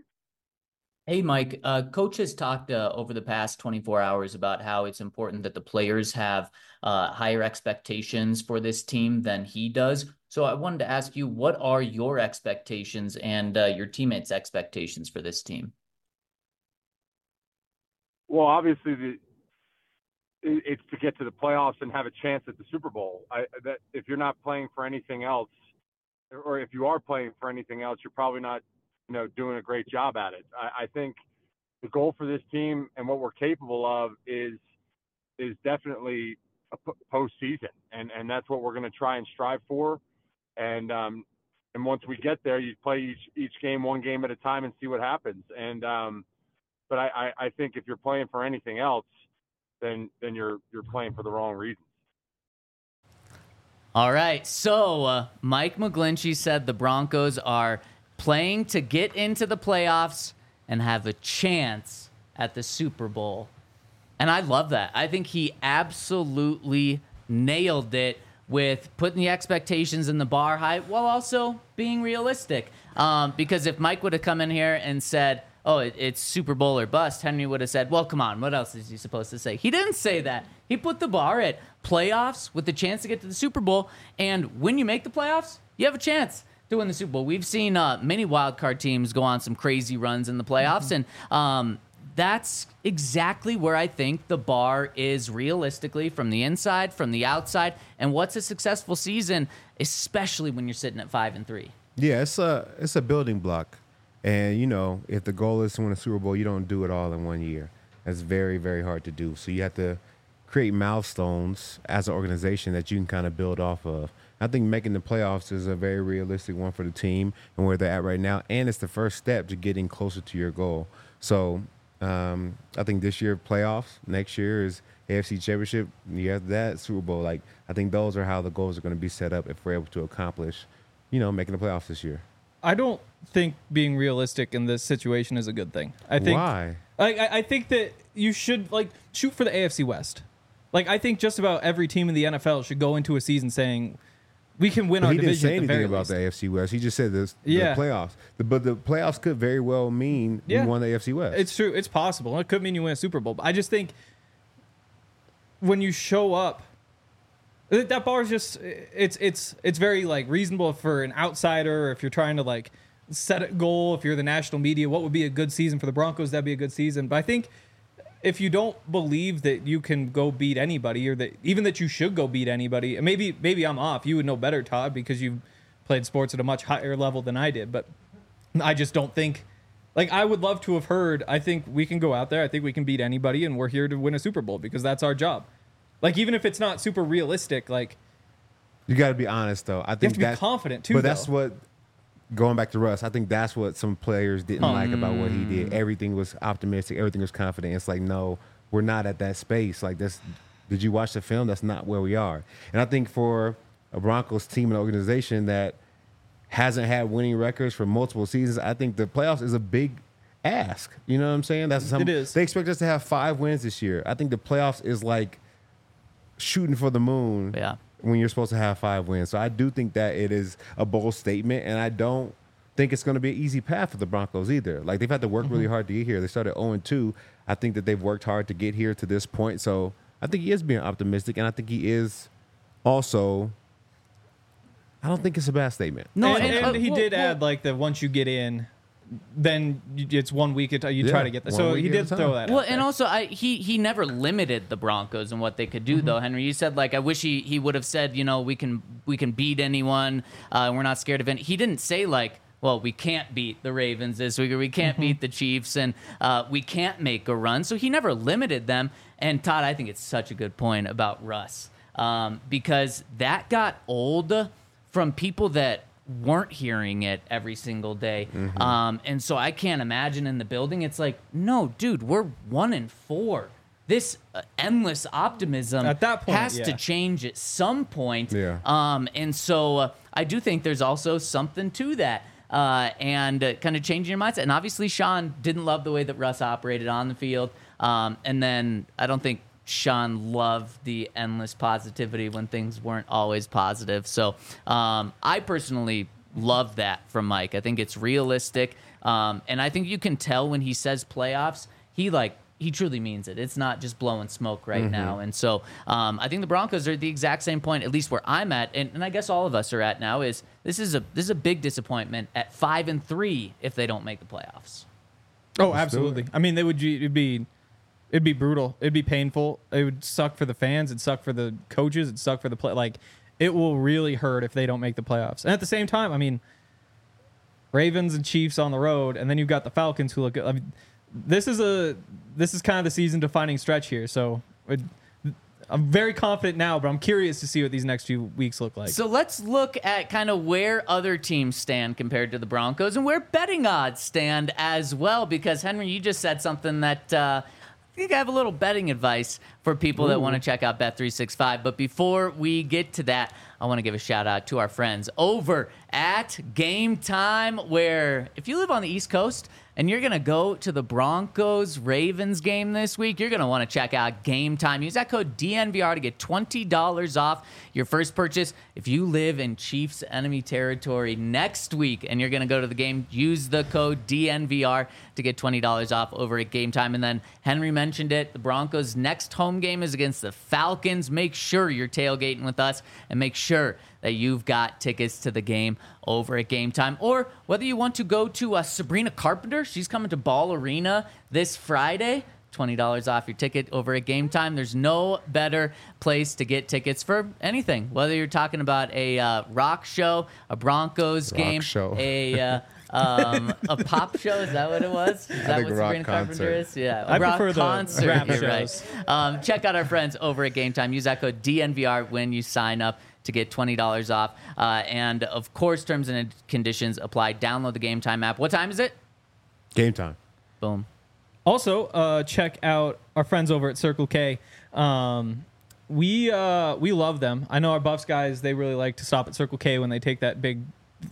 Speaker 2: Hey, Mike, uh, Coach has talked uh, over the past twenty-four hours about how it's important that the players have uh, higher expectations for this team than he does. So I wanted to ask you, what are your expectations and uh, your teammates' expectations for this team?
Speaker 6: Well, obviously, the, it- it's to get to the playoffs and have a chance at the Super Bowl. I, that if you're not playing for anything else, or if you are playing for anything else, you're probably not, you know, doing a great job at it. I, I think the goal for this team and what we're capable of is is definitely a p- postseason, and and that's what we're going to try and strive for. And um, and once we get there, you play each each game one game at a time and see what happens. And um, but I, I, I think if you're playing for anything else, then then you're you're playing for the wrong reasons.
Speaker 2: All right, so uh, Mike McGlinchey said the Broncos are playing to get into the playoffs and have a chance at the Super Bowl. And I love that. I think he absolutely nailed it with putting the expectations in the bar high while also being realistic. Um, because if Mike would have come in here and said, oh, it, it's Super Bowl or bust, Henry would have said, well, come on, what else is he supposed to say? He didn't say that. He put the bar at playoffs with the chance to get to the Super Bowl. And when you make the playoffs, you have a chance to win the Super Bowl. We've seen uh, many wild card teams go on some crazy runs in the playoffs. And um, that's exactly where I think the bar is realistically, from the inside, from the outside. And what's a successful season, especially when you're sitting at five and three?
Speaker 3: Yeah, it's a it's a building block, and you know if the goal is to win a Super Bowl, you don't do it all in one year. That's very very hard to do. So you have to create milestones as an organization that you can kind of build off of. I think making the playoffs is a very realistic one for the team and where they're at right now, and it's the first step to getting closer to your goal. So um, I think this year playoffs, next year is A F C Championship, year after that Super Bowl. Like I think those are how the goals are going to be set up if we're able to accomplish, you know, making the playoffs this year.
Speaker 4: I don't think being realistic in this situation is a good thing. I think
Speaker 3: Why?
Speaker 4: Like I, I think that you should like shoot for the A F C West. Like I think just about every team in the N F L should go into a season saying we can win
Speaker 3: But
Speaker 4: our
Speaker 3: he didn't
Speaker 4: division
Speaker 3: say
Speaker 4: at the
Speaker 3: anything
Speaker 4: very
Speaker 3: about
Speaker 4: least.
Speaker 3: the A F C West. He just said this,
Speaker 4: Yeah.
Speaker 3: the playoffs. The, but the playoffs could very well mean
Speaker 4: Yeah.
Speaker 3: you won the A F C West.
Speaker 4: It's true. It's possible. It could mean you win a Super Bowl. But I just think when you show up, that that bar is just it's it's it's very like reasonable for an outsider. Or if you're trying to like set a goal, if you're the national media, what would be a good season for the Broncos? That'd be a good season. But I think if you don't believe that you can go beat anybody, or that even that you should go beat anybody, and maybe maybe I'm off. You would know better, Todd, because you've played sports at a much higher level than I did. But I just don't think. Like, I would love to have heard, I think we can go out there, I think we can beat anybody, and we're here to win a Super Bowl because that's our job. Like, even if it's not super realistic, like,
Speaker 3: You got to be honest, though. I think
Speaker 4: to be
Speaker 3: that,
Speaker 4: confident, too,
Speaker 3: But that's
Speaker 4: though.
Speaker 3: what, going back to Russ, I think that's what some players didn't like about what he did. Everything was optimistic. Everything was confident. It's like, no, we're not at that space. Like, this, did you watch the film? That's not where we are. And I think for a Broncos team and organization that hasn't had winning records for multiple seasons, I think the playoffs is a big ask. You know what I'm saying? That's some,
Speaker 4: It is.
Speaker 3: They expect us to have five wins this year. I think the playoffs is like shooting for the moon.
Speaker 2: Yeah.
Speaker 3: When you're supposed to have five wins. So I do think that it is a bold statement, and I don't think it's going to be an easy path for the Broncos either. Like, they've had to work really hard to get here. They started oh and two. I think that they've worked hard to get here to this point. So I think he is being optimistic, and I think he is also, I don't think it's a bad statement.
Speaker 2: No,
Speaker 4: and,
Speaker 2: and,
Speaker 4: and
Speaker 2: uh,
Speaker 4: he
Speaker 2: well,
Speaker 4: did
Speaker 2: well,
Speaker 4: add, like, that once you get in, then you- it's one week, at, you
Speaker 3: Yeah,
Speaker 4: try to get that.
Speaker 3: one
Speaker 4: So
Speaker 3: week
Speaker 4: he
Speaker 3: at
Speaker 4: did
Speaker 3: a time.
Speaker 4: throw that
Speaker 2: Well,
Speaker 4: out
Speaker 2: and
Speaker 4: there.
Speaker 2: also, I he he never limited the Broncos and what they could do,
Speaker 4: Mm-hmm.
Speaker 2: though. Henry, you said like I wish he, he would have said, you know, we can we can beat anyone. Uh, we're not scared of it. He didn't say like, well, we can't beat the Ravens this week, or we can't
Speaker 4: Mm-hmm.
Speaker 2: beat the Chiefs, and uh, we can't make a run. So he never limited them. And Todd, I think it's such a good point about Russ, um, because that got old from people that weren't hearing it every single day.
Speaker 3: Mm-hmm.
Speaker 2: Um, and so I can't imagine in the building, it's like, no, dude, we're one and four. This uh, endless optimism
Speaker 4: At that point,
Speaker 2: has to
Speaker 4: yeah.
Speaker 2: change at some point.
Speaker 3: Yeah.
Speaker 2: Um, and so uh, I do think there's also something to that. Uh, and uh, kind of changing your mindset. And obviously, Sean didn't love the way that Russ operated on the field. Um, and then I don't think Sean loved the endless positivity when things weren't always positive. So um, I personally love that from Mike. I think it's realistic. Um, and I think you can tell when he says playoffs, he like, he truly means it. It's not just blowing smoke right
Speaker 3: Mm-hmm.
Speaker 2: now. And so um, I think the Broncos are at the exact same point, at least where I'm at, and, and I guess all of us are at now, is this is a this is a big disappointment at five and three if they don't make the playoffs.
Speaker 4: Oh, absolutely. I mean, they would it'd be it'd be brutal. It'd be painful. It would suck for the fans. It'd suck for the coaches. It'd suck for the play. Like, it will really hurt if they don't make the playoffs. And at the same time, I mean, Ravens and Chiefs on the road, and then you've got the Falcons who look good. I mean, this is a this is kind of the season defining stretch here. So it, I'm very confident now, but I'm curious to see what these next few weeks look like.
Speaker 2: So let's look at kind of where other teams stand compared to the Broncos and where betting odds stand as well. Because, Henry, you just said something that uh, I think I have a little betting advice for people that want to check out Bet three sixty-five. But before we get to that, I want to give a shout out to our friends over at Game Time, where if you live on the East Coast and you're going to go to the Broncos-Ravens game this week, you're going to want to check out Game Time. Use that code D N V R to get twenty dollars off your first purchase. If you live in Chiefs enemy territory next week and you're going to go to the game, use the code D N V R to get twenty dollars off over at Game Time. And then Henry mentioned it, the Broncos' next home game is against the Falcons. Make sure you're tailgating with us and make sure that you've got tickets to the game over at Game Time. Or whether you want to go to uh, Sabrina Carpenter, she's coming to Ball Arena this Friday. twenty dollars off your ticket over at Game Time. There's no better place to get tickets for anything. Whether you're talking about a uh, rock show, a Broncos
Speaker 3: Rock
Speaker 2: game,
Speaker 3: show.
Speaker 2: a uh, Um, a pop show, is that what it was? Is that
Speaker 3: think
Speaker 2: what
Speaker 3: rock
Speaker 2: Sabrina Carpenter
Speaker 3: concert.
Speaker 2: is? Yeah, a
Speaker 4: I
Speaker 2: rock
Speaker 4: prefer the
Speaker 2: concert.
Speaker 4: rap
Speaker 2: You're
Speaker 4: shows.
Speaker 2: right. Um, check out our friends over at Game Time. Use that code D N V R when you sign up to get twenty dollars off. Uh, and of course, terms and conditions apply. Download the Game Time app. What time is it?
Speaker 3: Game time.
Speaker 2: Boom.
Speaker 4: Also, uh, check out our friends over at Circle K. Um, we uh, we love them. I know our Buffs guys, they really like to stop at Circle K when they take that big,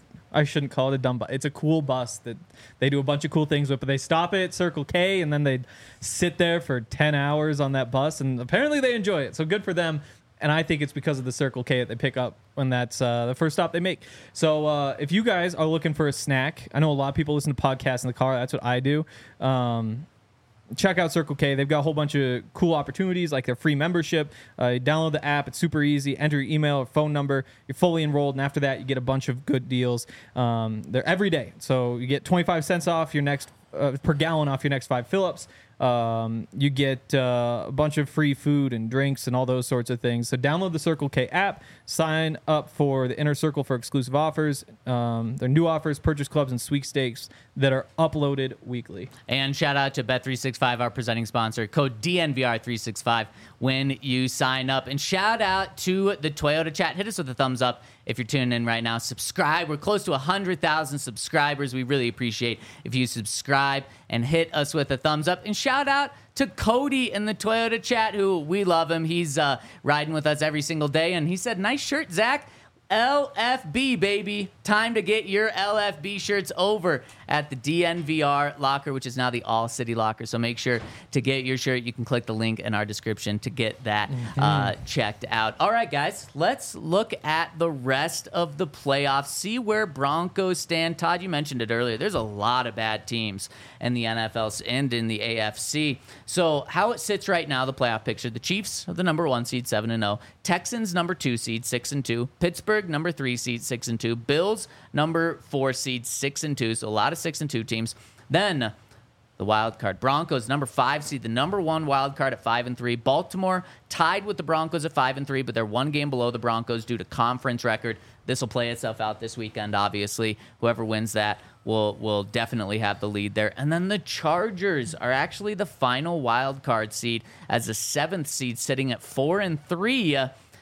Speaker 4: I shouldn't call it a dumb bus. It's a cool bus that they do a bunch of cool things with, but they stop at Circle K and then they sit there for ten hours on that bus, and apparently they enjoy it. So good for them. And I think it's because of the Circle K that they pick up when that's uh, the first stop they make. So uh, if you guys are looking for a snack, I know a lot of people listen to podcasts in the car. That's what I do. Um, check out Circle K. They've got a whole bunch of cool opportunities, like their free membership. Uh, you download the app. It's super easy. Enter your email or phone number. You're fully enrolled, and after that, you get a bunch of good deals. Um, they're every day. So you get twenty-five cents off your next uh, per gallon off your next five fill-ups. Um, you get uh, a bunch of free food and drinks and all those sorts of things. So download the Circle K app, sign up for the Inner Circle for exclusive offers. Um, their new offers, purchase clubs, and sweepstakes that are uploaded weekly.
Speaker 2: And shout out to Bet three sixty-five, our presenting sponsor. Code D N V R three sixty-five when you sign up. And shout out to the Toyota chat. Hit us with a thumbs up if you're tuning in right now. Subscribe. We're close to one hundred thousand subscribers. We really appreciate if you subscribe and hit us with a thumbs up. And shout out to Cody in the Toyota chat, who we love him. He's uh, riding with us every single day. And he said, nice shirt, Zach. L F B, baby. Time to get your L F B shirts over at the D N V R locker, which is now the All City locker. So make sure to get your shirt. You can click the link in our description to get that mm-hmm. uh, checked out. All right, guys, let's look at the rest of the playoffs, see where Broncos stand. Todd, you mentioned it earlier. There's a lot of bad teams in the N F L and in the A F C. So how it sits right now, the playoff picture, the Chiefs are the number one seed, seven and oh. Texans, number two seed, six and two. Pittsburgh, number three seed, six and two. Bills, number four seed, six and two. So a lot of six and two teams. Then the wild card, Broncos, number five seed, the number one wild card at five and three. Baltimore tied with the Broncos at five and three, but they're one game below the Broncos due to conference record. This will play itself out this weekend. Obviously, whoever wins that will will definitely have the lead there. And then the Chargers are actually the final wild card seed as a seventh seed, sitting at four and three.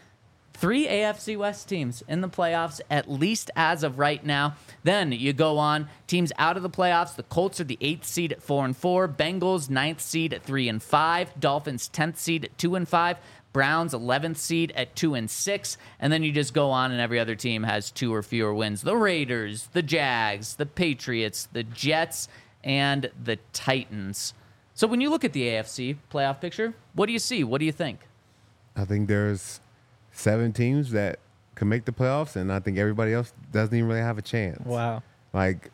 Speaker 2: Three A F C West teams in the playoffs, at least as of right now. Then you go on, teams out of the playoffs. The Colts are the eighth seed at four and four. Bengals, ninth seed at three and five. Dolphins, tenth seed at two and five. Browns, eleventh seed at two and six. And then you just go on, and every other team has two or fewer wins. The Raiders, the Jags, the Patriots, the Jets, and the Titans. So when you look at the A F C playoff picture, what do you see? What do you think?
Speaker 3: I think there's seven teams that can make the playoffs, and I think everybody else doesn't even really have a chance.
Speaker 4: Wow.
Speaker 3: Like,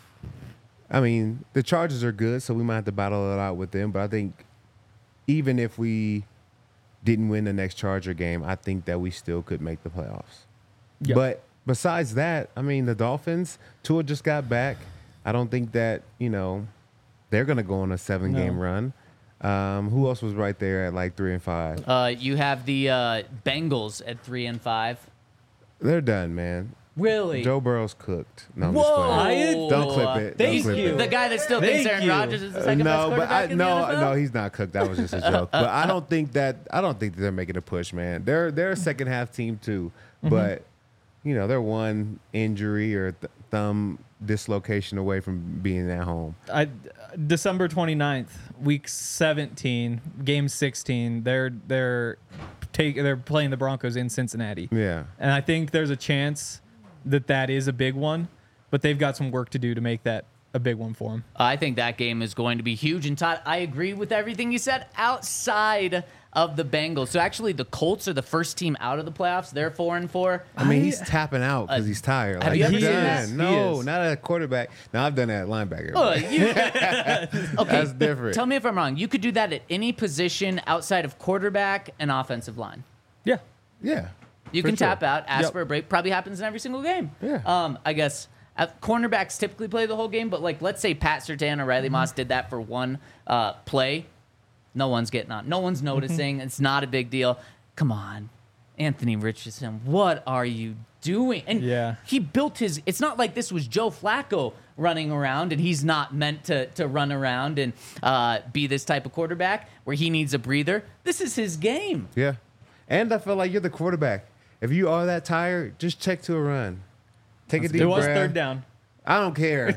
Speaker 3: I mean, the Chargers are good, so we might have to battle it out with them. But I think even if we didn't win the next Charger game, I think that we still could make the playoffs.
Speaker 4: Yep.
Speaker 3: But besides that, I mean, the Dolphins, Tua just got back. I don't think that, you know, they're going to go on a seven-game
Speaker 4: No.
Speaker 3: run. Um, who else was right there at like three and five?
Speaker 2: Uh, you have the uh, Bengals at three and five.
Speaker 3: They're done, man.
Speaker 2: Really?
Speaker 3: Joe Burrow's cooked. No, I'm
Speaker 2: Whoa!
Speaker 3: just playing.
Speaker 4: I-
Speaker 3: Don't clip it. Don't
Speaker 4: Thank
Speaker 3: clip
Speaker 4: you.
Speaker 3: it.
Speaker 2: The guy that still thinks
Speaker 4: Thank
Speaker 2: Aaron
Speaker 4: you.
Speaker 2: Rodgers is the
Speaker 3: Uh,
Speaker 2: second best
Speaker 3: no, but
Speaker 2: quarterback
Speaker 3: I,
Speaker 2: in the
Speaker 3: no,
Speaker 2: N F L?
Speaker 3: no, he's not cooked. That was just a joke. But I don't think that I don't think that they're making a push, man. They're they're a second half team too,
Speaker 2: Mm-hmm.
Speaker 3: but you know they're one injury or th- thumb dislocation away from being at home.
Speaker 4: I, December twenty-ninth, week seventeen, game sixteen. They're they're take they're playing the Broncos in Cincinnati.
Speaker 3: Yeah,
Speaker 4: And I think there's a chance that that is a big one, but they've got some work to do to make that a big one for them.
Speaker 2: I think that game is going to be huge. And Todd, I agree with everything you said outside of the Bengals. So actually, the Colts are the first team out of the playoffs. They're four and four.
Speaker 3: I mean he's tapping out because he's tired.
Speaker 2: have
Speaker 3: Like,
Speaker 2: you ever
Speaker 3: I'm
Speaker 2: seen
Speaker 3: done.
Speaker 2: that?
Speaker 4: He
Speaker 3: No,
Speaker 4: is.
Speaker 3: not at quarterback. No, I've done that at linebacker.
Speaker 2: Oh, you- okay,
Speaker 3: That's different.
Speaker 2: tell me if I'm wrong. You could do that at any position outside of quarterback and offensive line.
Speaker 4: Yeah.
Speaker 3: Yeah,
Speaker 2: You
Speaker 3: for
Speaker 2: can
Speaker 3: sure.
Speaker 2: tap out, ask
Speaker 4: Yep.
Speaker 2: for a break. Probably happens in every single game.
Speaker 3: Yeah.
Speaker 2: Um, I guess uh, cornerbacks typically play the whole game, but like let's say Pat Surtain or Riley
Speaker 3: Mm-hmm.
Speaker 2: Moss did that for one uh, play. No one's getting on. No one's noticing. It's not a big deal. Come on, Anthony Richardson. What are you doing? And
Speaker 4: Yeah.
Speaker 2: he built his. It's not like this was Joe Flacco running around, and he's not meant to to run around and uh, be this type of quarterback where he needs a breather. This is his game.
Speaker 3: Yeah. And I feel like you're the quarterback. If you are that tired, just check to a run. Take a deep
Speaker 4: It
Speaker 3: breath.
Speaker 4: was third down.
Speaker 3: I don't care.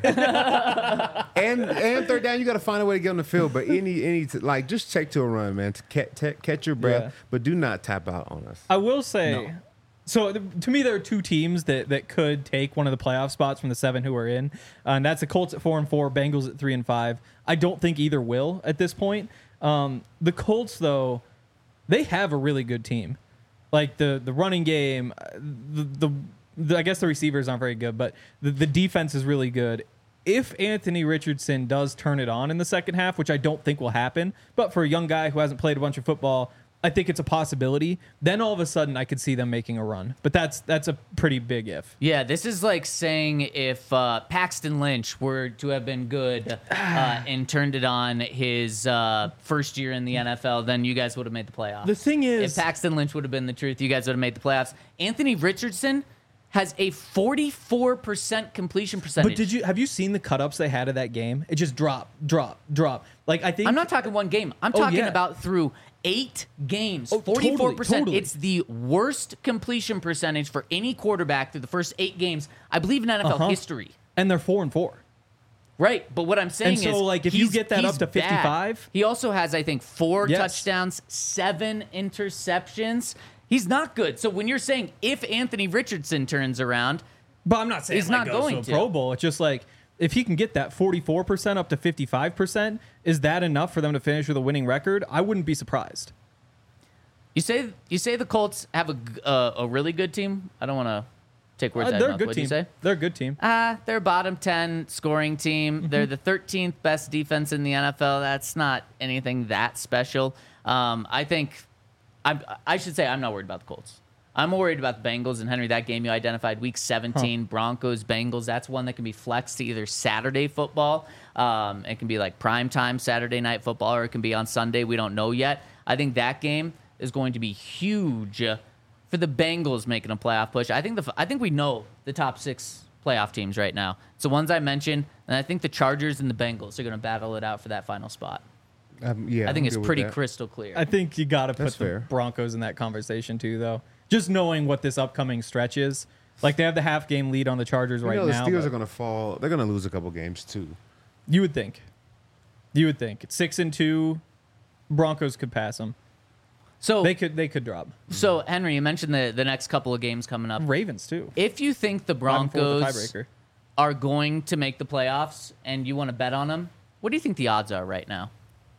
Speaker 3: and and third down, you got to find a way to get on the field. But any any t- like just check to a run, man. To catch, t- catch your breath,
Speaker 4: Yeah.
Speaker 3: but do not tap out on us.
Speaker 4: I will say,
Speaker 2: No.
Speaker 4: so th- to me, there are two teams that, that could take one of the playoff spots from the seven who are in, uh, and that's the Colts at four and four, Bengals at three and five. I don't think either will at this point. Um, the Colts, though, they have a really good team. Like the the running game, uh, the, the, the I guess the receivers aren't very good, but the, the defense is really good. If Anthony Richardson does turn it on in the second half, which I don't think will happen, but for a young guy who hasn't played a bunch of football, I think it's a possibility. Then all of a sudden, I could see them making a run. But that's that's a pretty big if.
Speaker 2: Yeah, this is like saying if uh, Paxton Lynch were to have been good uh, and turned it on his uh, first year in the N F L, then you guys would have made the playoffs.
Speaker 4: The thing is-
Speaker 2: if Paxton Lynch would have been the truth, you guys would have made the playoffs. Anthony Richardson has a forty-four percent completion percentage.
Speaker 4: But did you have you seen the cut ups they had of that game? It just drop, drop, drop. Like I think
Speaker 2: I'm not talking one game. I'm
Speaker 4: Oh,
Speaker 2: talking
Speaker 4: yeah.
Speaker 2: about through eight games.
Speaker 4: Oh, totally,
Speaker 2: forty-four percent.
Speaker 4: totally.
Speaker 2: It's the worst completion percentage for any quarterback through the first eight games, I believe, in N F L
Speaker 4: Uh-huh.
Speaker 2: history.
Speaker 4: and they're four and four.
Speaker 2: Right, but what I'm saying
Speaker 4: And so,
Speaker 2: is,
Speaker 4: like, if you
Speaker 2: he's-
Speaker 4: get that
Speaker 2: he's
Speaker 4: up to
Speaker 2: bad.
Speaker 4: fifty-five?
Speaker 2: He also has, I think, four
Speaker 4: Yes.
Speaker 2: touchdowns, seven interceptions. He's not good. So when you're saying if Anthony Richardson turns around,
Speaker 4: But I'm not saying
Speaker 2: He's
Speaker 4: like
Speaker 2: not
Speaker 4: goes
Speaker 2: going
Speaker 4: to
Speaker 2: to.
Speaker 4: a Pro Bowl. It's just like if he can get that forty-four percent up to fifty-five percent, is that enough for them to finish with a winning record? I wouldn't be surprised.
Speaker 2: you say you say the Colts have a g- uh, a really good team. I don't want to take words
Speaker 4: Uh,
Speaker 2: out of
Speaker 4: they're
Speaker 2: your
Speaker 4: a
Speaker 2: mouth.
Speaker 4: good
Speaker 2: What'd
Speaker 4: team.
Speaker 2: you say?
Speaker 4: They're a good team.
Speaker 2: Ah, they're a bottom ten scoring team.
Speaker 4: Mm-hmm.
Speaker 2: They're the thirteenth best defense in the N F L. That's not anything that special. Um, I think I'm, I should say I'm not worried about the Colts. I'm worried about the Bengals. And Henry, that game you identified, Week seventeen, Broncos, Bengals. That's one that can be flexed to either Saturday football. Um, it can be like primetime Saturday night football, or it can be on Sunday. We don't know yet. I think that game is going to be huge uh, for the Bengals making a playoff push. I think the I think we know the top six playoff teams right now. It's the ones I mentioned, and I think the Chargers and the Bengals are going to battle it out for that final spot.
Speaker 3: Um, yeah,
Speaker 2: I think
Speaker 3: I'm
Speaker 2: it's
Speaker 3: good with
Speaker 2: pretty
Speaker 3: that.
Speaker 2: crystal clear.
Speaker 4: I think you got to put
Speaker 3: That's
Speaker 4: the
Speaker 3: fair.
Speaker 4: Broncos in that conversation too, though. Just knowing what this upcoming stretch is, like they have the half game lead on the Chargers
Speaker 3: You
Speaker 4: right
Speaker 3: know, the
Speaker 4: now.
Speaker 3: Steelers
Speaker 4: but
Speaker 3: are going to fall. They're going to lose a couple games too.
Speaker 4: You would think. You would think. It's six and two. Broncos could pass them.
Speaker 2: so,
Speaker 4: They could. They could drop.
Speaker 2: so Henry, you mentioned the, the next couple of games coming up.
Speaker 4: Ravens too.
Speaker 2: If you think the
Speaker 4: Five and four with the
Speaker 2: Broncos
Speaker 4: tiebreaker.
Speaker 2: are going to make the playoffs and you want to bet on them, what do you think the odds are right now?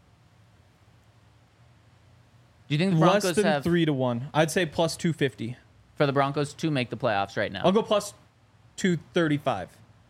Speaker 2: Do you think the Broncos
Speaker 4: Less than
Speaker 2: have
Speaker 4: three to one. I'd say plus two fifty.
Speaker 2: for the Broncos to make the playoffs right now?
Speaker 4: I'll go plus two thirty five.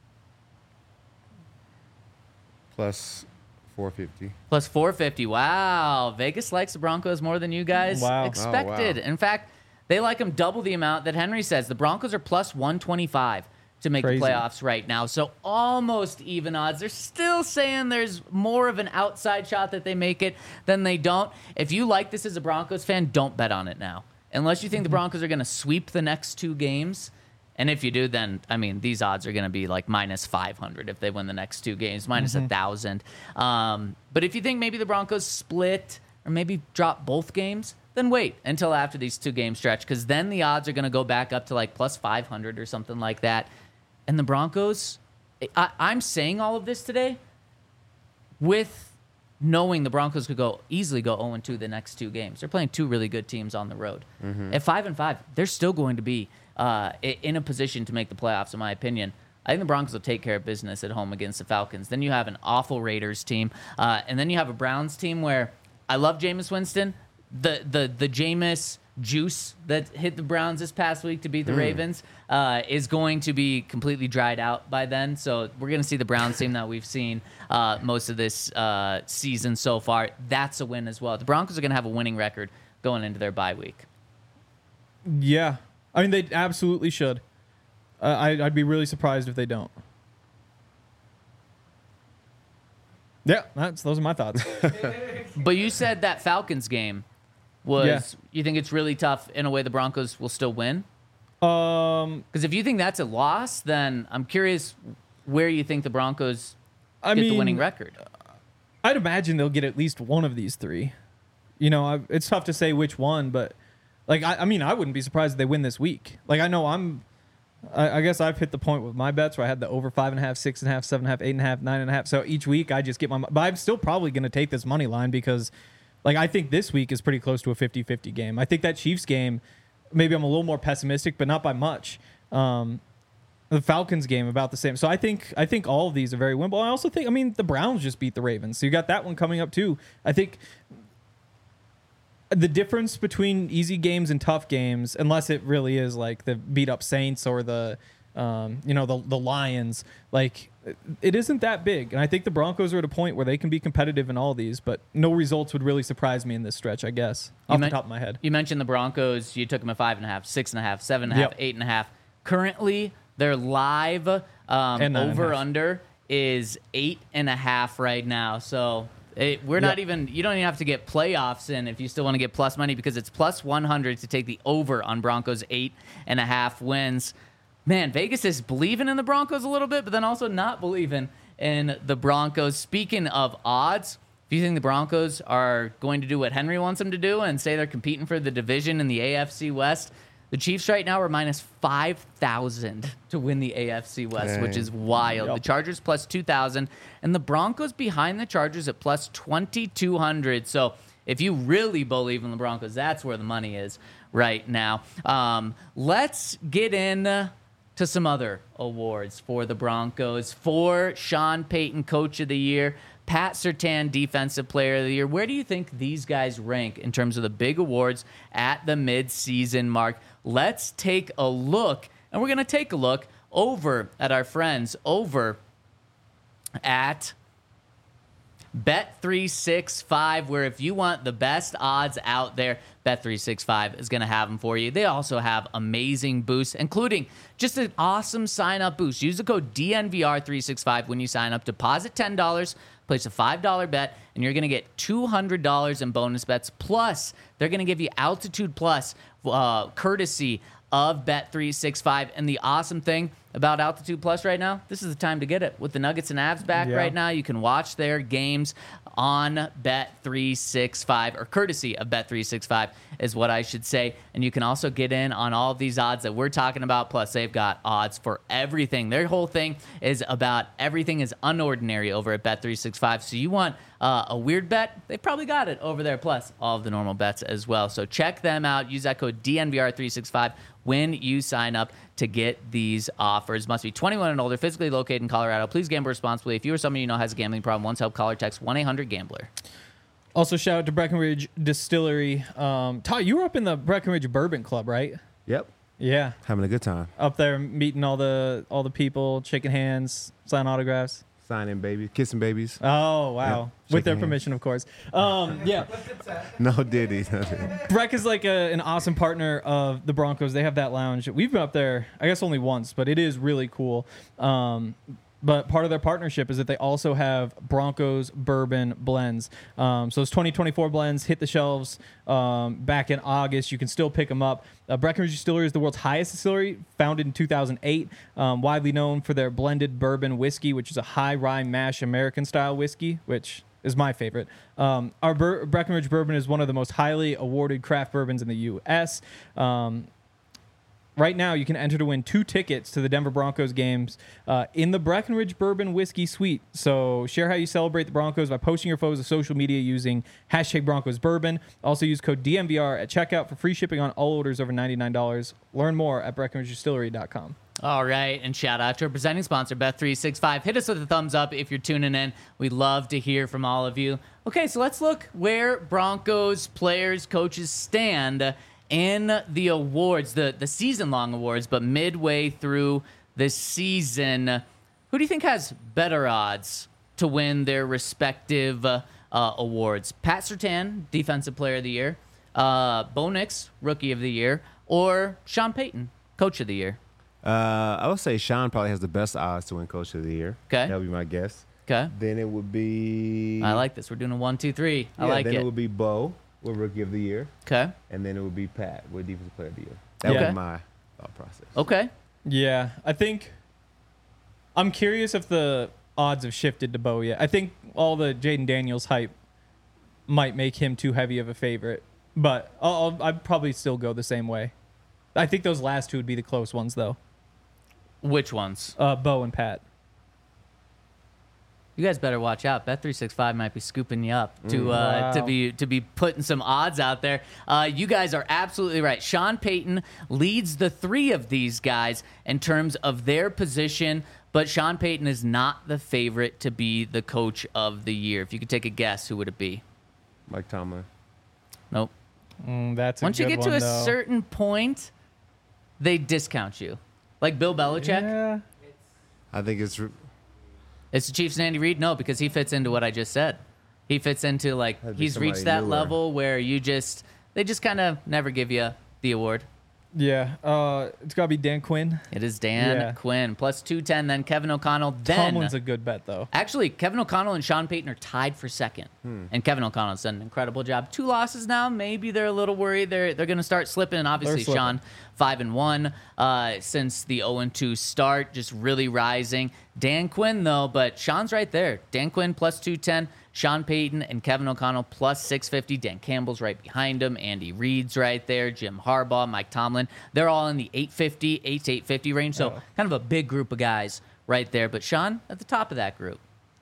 Speaker 3: Plus four fifty.
Speaker 2: Plus four fifty. Wow. Vegas likes the Broncos more than you guys
Speaker 4: Wow.
Speaker 2: expected.
Speaker 3: Oh, wow.
Speaker 2: In fact, they like them double the amount that Henry says. The Broncos are plus one twenty-five to make
Speaker 4: Crazy.
Speaker 2: the playoffs right now. So almost even odds. They're still saying there's more of an outside shot that they make it than they don't. If you like this as a Broncos fan, don't bet on it now. Unless you think the Broncos are going to sweep the next two games. And if you do, then, I mean, these odds are going to be like minus five hundred if they win the next two games, minus one thousand. Um, but if you think maybe the Broncos split or maybe drop both games, then wait until after these two game stretch, because then the odds are going to go back up to like plus five hundred or something like that. And the Broncos, I, I'm saying all of this today with knowing the Broncos could go easily go oh and two the next two games. They're playing two really good teams on the road. At five and five, they're still going to be uh, i- in a position to make the playoffs, in my opinion. I think the Broncos will take care of business at home against the Falcons. Then you have an awful Raiders team, uh, and then you have a Browns team where I love Jameis Winston. The the the Jameis juice that hit the Browns this past week to beat the Ravens uh, is going to be completely dried out by then. So we're going to see the Browns team that we've seen uh, most of this uh, season so far. That's a win as well. The Broncos are going to have a winning record going into their bye week.
Speaker 4: Yeah, I mean they absolutely should. Uh, I, I'd be really surprised if they don't. Yeah, that's those are my thoughts.
Speaker 2: But you said that Falcons game was,
Speaker 4: Yeah.
Speaker 2: you think it's really tough in a way the Broncos will still win?
Speaker 4: um,
Speaker 2: Because if you think that's a loss, then I'm curious where you think the Broncos
Speaker 4: I
Speaker 2: get
Speaker 4: mean,
Speaker 2: the winning record.
Speaker 4: I'd imagine they'll get at least one of these three. You know, I, it's tough to say which one, but like, I, I mean, I wouldn't be surprised if they win this week. Like, I know I'm, I, I guess I've hit the point with my bets where I had the over five and a half, six and a half, seven and a half, eight and a half, nine and a half. So each week I just get my, but I'm still probably going to take this money line because, like, I think this week is pretty close to a fifty-fifty game. I think that Chiefs game, maybe I'm a little more pessimistic, but not by much. Um, The Falcons game about the same. So I think I think all of these are very winnable. I also think, I mean, the Browns just beat the Ravens. So you got that one coming up too. I think the difference between easy games and tough games, unless it really is like the beat up Saints or the um, you know, the the Lions, like it isn't that big. And I think the Broncos are at a point where they can be competitive in all these, but no results would really surprise me in this stretch, I guess, off
Speaker 2: men-
Speaker 4: the top of my head.
Speaker 2: You mentioned the Broncos. You took them at five and a half, six and a half, seven and a half,
Speaker 4: Yep.
Speaker 2: eight and a half. Currently, their live um,
Speaker 4: And nine and a
Speaker 2: over
Speaker 4: half.
Speaker 2: under is eight and a half right now. So it, we're not
Speaker 4: Yep.
Speaker 2: even. You don't even have to get playoffs in if you still want to get plus money because it's plus one hundred to take the over on Broncos eight and a half wins. Man, Vegas is believing in the Broncos a little bit, but then also not believing in the Broncos. Speaking of odds, if you think the Broncos are going to do what Henry wants them to do and say they're competing for the division in the A F C West, the Chiefs right now are minus five thousand to win the A F C West,
Speaker 3: Dang.
Speaker 2: which is wild.
Speaker 4: Yep.
Speaker 2: The Chargers plus two thousand, and the Broncos behind the Chargers at plus twenty-two hundred. So if you really believe in the Broncos, that's where the money is right now. Um, let's get in to some other awards for the Broncos. For Sean Payton, Coach of the Year, Pat Surtain, Defensive Player of the Year. Where do you think these guys rank in terms of the big awards at the midseason mark? Let's take a look, and we're going to take a look over at our friends over at Bet three sixty-five, where if you want the best odds out there, Bet three sixty-five is going to have them for you. They also have amazing boosts, including just an awesome sign-up boost. Use the code D N V R three sixty-five when you sign up. Deposit ten dollars, place a five dollar bet, and you're going to get two hundred dollars in bonus bets. Plus, they're going to give you Altitude Plus uh, courtesy of Bet three sixty-five. And the awesome thing about Altitude Plus right now, this is the time to get it. With the Nuggets and Avs back
Speaker 4: Yeah.
Speaker 2: right now, you can watch their games on Bet three sixty-five, or courtesy of Bet three sixty-five is what I should say. And you can also get in on all of these odds that we're talking about. Plus, they've got odds for everything. Their whole thing is about everything is unordinary over at Bet three sixty-five. So you want uh, a weird bet? They've probably got it over there. Plus, all of the normal bets as well. So check them out. Use that code D N V R three sixty-five when you sign up to get these offers. Must be twenty-one and older, physically located in Colorado. Please gamble responsibly. If you or someone you know has a gambling problem, once help, call or text one eight hundred gambler.
Speaker 4: Also, shout out to Breckenridge Distillery. Um, Ty, you were up in the Breckenridge Bourbon Club, right?
Speaker 3: Yep.
Speaker 4: Yeah,
Speaker 3: Having a good time.
Speaker 4: up there meeting all the all the people, shaking hands, signing autographs.
Speaker 3: Signing babies, kissing babies.
Speaker 4: Oh wow,
Speaker 3: Yeah,
Speaker 4: with
Speaker 3: shaking
Speaker 4: their
Speaker 3: hands.
Speaker 4: permission, of course. Um, yeah,
Speaker 3: No diddy. No diddy.
Speaker 4: Breck is like a, an awesome partner of the Broncos. They have that lounge. We've been up there, I guess, only once, but it is really cool. Um, but part of their partnership is that they also have Broncos bourbon blends. Um, so those twenty twenty-four blends hit the shelves um, back in August. You can still pick them up. Uh, Breckenridge Distillery is the world's highest distillery, founded in two thousand eight, um, widely known for their blended bourbon whiskey, which is a high rye mash American-style whiskey, which is my favorite. Um, our Bur- Breckenridge bourbon is one of the most highly awarded craft bourbons in the U S Um, right now, you can enter to win two tickets to the Denver Broncos games uh, in the Breckenridge Bourbon Whiskey Suite. So share how you celebrate the Broncos by posting your photos to social media using hashtag Broncos Bourbon. Also use code D N V R at checkout for free shipping on all orders over ninety-nine dollars. Learn more at breckenridge distillery dot com.
Speaker 2: All right, and shout out to our presenting sponsor, Bet three sixty-five. Hit us with a thumbs up if you're tuning in. We'd love to hear from all of you. Okay, so let's look where Broncos players, coaches stand in the awards, the, the season-long awards, but midway through the season. Who do you think has better odds to win their respective uh, uh, awards? Pat Surtain, Defensive Player of the Year, uh, Bo Nix, Rookie of the Year, or Sean Payton, Coach of the Year?
Speaker 3: Uh, I would say Sean probably has the best odds to win Coach of the Year.
Speaker 2: Okay.
Speaker 3: That would be my guess.
Speaker 2: Okay.
Speaker 3: Then it would be.
Speaker 2: I like this. We're doing a one, two, three. I
Speaker 3: yeah,
Speaker 2: like
Speaker 3: then
Speaker 2: it.
Speaker 3: it would be Bo with Rookie of the Year,
Speaker 2: Okay.
Speaker 3: and then it would be Pat with Defensive Player of the Year. That
Speaker 4: Yeah.
Speaker 3: would be my thought process.
Speaker 2: Okay.
Speaker 4: Yeah, I think I'm curious if the odds have shifted to Bo yet. I think all the Jaden Daniels hype might make him too heavy of a favorite, but I'll, I'll I'd probably still go the same way. I think those last two would be the close ones, though.
Speaker 2: Which ones?
Speaker 4: Uh, Bo and Pat.
Speaker 2: You guys better watch out. Bet three sixty-five might be scooping you up to uh,
Speaker 4: Wow.
Speaker 2: to be to be putting some odds out there. Uh, you guys are absolutely right. Sean Payton leads the three of these guys in terms of their position, but Sean Payton is not the favorite to be the coach of the year. If you could take a guess, who would it be?
Speaker 3: Mike Tomlin.
Speaker 2: Nope.
Speaker 4: Mm, that's a
Speaker 2: Once you
Speaker 4: good
Speaker 2: get to
Speaker 4: one,
Speaker 2: a
Speaker 4: though.
Speaker 2: certain point, they discount you. Like Bill Belichick.
Speaker 4: Yeah.
Speaker 3: I think it's.
Speaker 2: It's the Chiefs and Andy Reid? No, because he fits into what I just said. He fits into, like,
Speaker 3: That'd be
Speaker 2: he's reached
Speaker 3: somebody
Speaker 2: that
Speaker 3: newer.
Speaker 2: level where you just, they just kind of never give you the award.
Speaker 4: Yeah. Uh, it's got to be Dan Quinn.
Speaker 2: It is Dan
Speaker 4: Yeah.
Speaker 2: Quinn, plus two ten, then Kevin O'Connell. Then,
Speaker 4: Tomlin's a good bet, though.
Speaker 2: actually, Kevin O'Connell and Sean Payton are tied for second.
Speaker 3: Hmm.
Speaker 2: And Kevin O'Connell's done an incredible job. Two losses now. Maybe they're a little worried. They're they're going to start slipping. And obviously,
Speaker 4: slipping.
Speaker 2: Sean, five and one uh, since the oh and two start, just really rising. Dan Quinn, though, but Sean's right there. Dan Quinn, plus two ten. Sean Payton and Kevin O'Connell, plus six fifty. Dan Campbell's right behind him. Andy Reid's right there. Jim Harbaugh, Mike Tomlin. They're all in the eight fifty, eight to eight fifty range. So
Speaker 4: Oh.
Speaker 2: kind of a big group of guys right there. But Sean at the top of that group.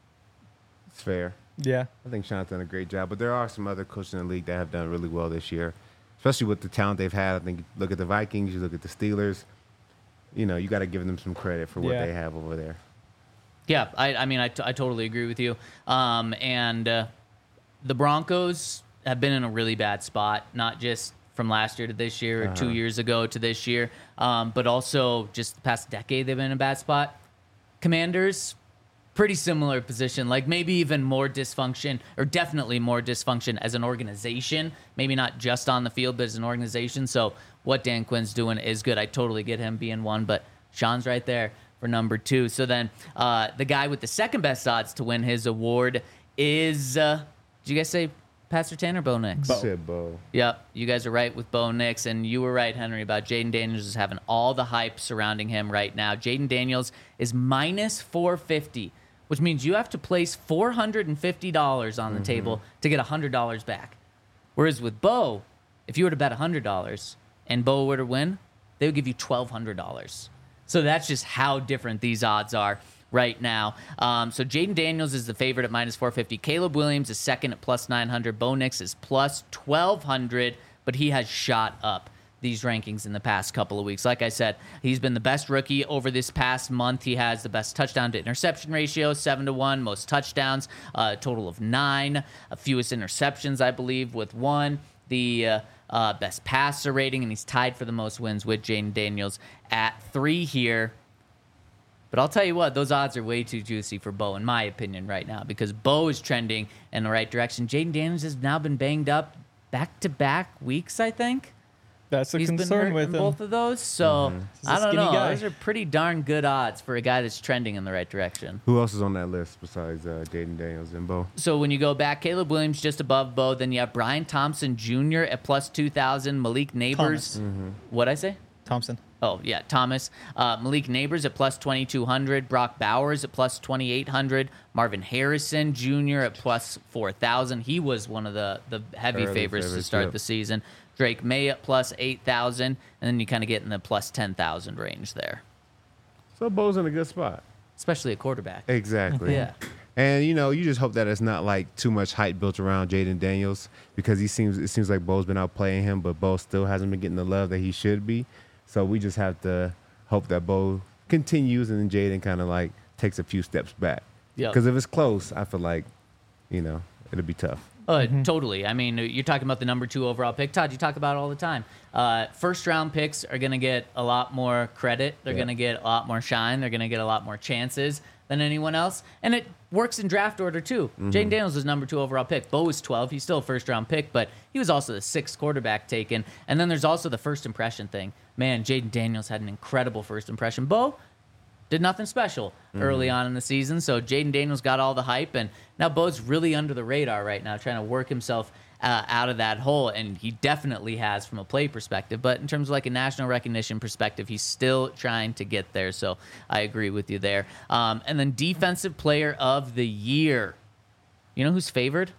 Speaker 3: It's fair.
Speaker 4: Yeah.
Speaker 3: I think Sean's done a great job, but there are some other coaches in the league that have done really well this year, especially with the talent they've had. I think you look at the Vikings, you look at the Steelers. You know, you got to give them some credit for what
Speaker 4: Yeah.
Speaker 3: they have over there.
Speaker 2: Yeah, I, I mean, I, t- I totally agree with you. Um, and uh, the Broncos have been in a really bad spot, not just from last year to this year or
Speaker 3: Uh-huh.
Speaker 2: two years ago to this year, um, but also just the past decade they've been in a bad spot. Commanders, pretty similar position, like maybe even more dysfunction, or definitely more dysfunction as an organization, maybe not just on the field, but as an organization. So what Dan Quinn's doing is good. I totally get him being one, but Sean's right there for number two. So then uh, the guy with the second best odds to win his award is, uh, did you guys say Pastor Tanner Bo Nix?
Speaker 3: Said Bo.
Speaker 2: Yep, you guys are right with Bo Nix, and you were right, Henry, about Jaden Daniels is having all the hype surrounding him right now. Jaden Daniels is minus four fifty, which means you have to place four hundred fifty dollars on the table to get one hundred dollars back. Whereas with Bo, if you were to bet one hundred dollars and Bo were to win, they would give you twelve hundred dollars. So that's just how different these odds are right now. Um, so Jaden Daniels is the favorite at minus four fifty. Caleb Williams is second at plus nine hundred. Bo Nix is plus twelve hundred, but he has shot up these rankings in the past couple of weeks. Like I said, he's been the best rookie over this past month. He has the best touchdown to interception ratio, seven to one, most touchdowns, a total of nine, uh, fewest interceptions, I believe, with one. The uh, uh, best passer rating, and he's tied for the most wins with Jaden Daniels at three here. But I'll tell you what, those odds are way too juicy for Bo, in my opinion, right now, because Bo is trending in the right direction. Jaden Daniels has now been banged up back-to-back weeks, I think.
Speaker 4: That's a
Speaker 2: He's been
Speaker 4: concern
Speaker 2: hurt
Speaker 4: with
Speaker 2: in
Speaker 4: him.
Speaker 2: both of those, so
Speaker 4: He's a
Speaker 2: I don't
Speaker 4: skinny
Speaker 2: know.
Speaker 4: guy.
Speaker 2: Those are pretty darn good odds for a guy that's trending in the right direction.
Speaker 3: Who else is on that list besides uh, Jaden Daniels and Bo?
Speaker 2: So when you go back, Caleb Williams just above Bo, then you have Brian Thompson Junior at plus two thousand, Malik Neighbors.
Speaker 4: Thomas.
Speaker 2: What'd I say?
Speaker 4: Thompson.
Speaker 2: Oh, yeah, Thomas. Uh, Malik Neighbors at plus twenty-two hundred. Brock Bowers at plus twenty-eight hundred. Marvin Harrison Junior at plus four thousand. He was one of the, the heavy
Speaker 3: Early
Speaker 2: favorites to
Speaker 3: favorites,
Speaker 2: start
Speaker 3: yep.
Speaker 2: the season. Drake May at plus eight thousand. And then you kind of get in the plus ten thousand range there,
Speaker 3: So Bo's in a good spot.
Speaker 2: especially a quarterback.
Speaker 3: Exactly.
Speaker 2: Yeah.
Speaker 3: And you know, you just hope that it's not like too much hype built around Jaden Daniels, because he seems it seems like Bo's been outplaying him, but Bo still hasn't been getting the love that he should be. So we just have to hope that Bo continues and then Jaden kind of like takes a few steps back.
Speaker 2: Yep.
Speaker 3: Because if it's close, I feel like, you know, it'll be tough.
Speaker 2: Uh, Totally. I mean, you're talking about the number two overall pick. Todd, you talk about it all the time. Uh, first round picks are going to get a lot more credit. They're
Speaker 3: Yeah.
Speaker 2: going to get a lot more shine. They're going to get a lot more chances than anyone else. And it works in draft order, too. Jaden Daniels was number two overall pick. Bo was twelve. He's still a first round pick, but he was also the sixth quarterback taken. And then there's also the first impression thing. Man, Jaden Daniels had an incredible first impression. Bo did nothing special early on in the season. So Jaden Daniels got all the hype, and now Bo's really under the radar right now, trying to work himself uh, out of that hole, and he definitely has from a play perspective. But in terms of like a national recognition perspective, he's still trying to get there. So I agree with you there. Um, and then defensive player of the year. You know who's favored?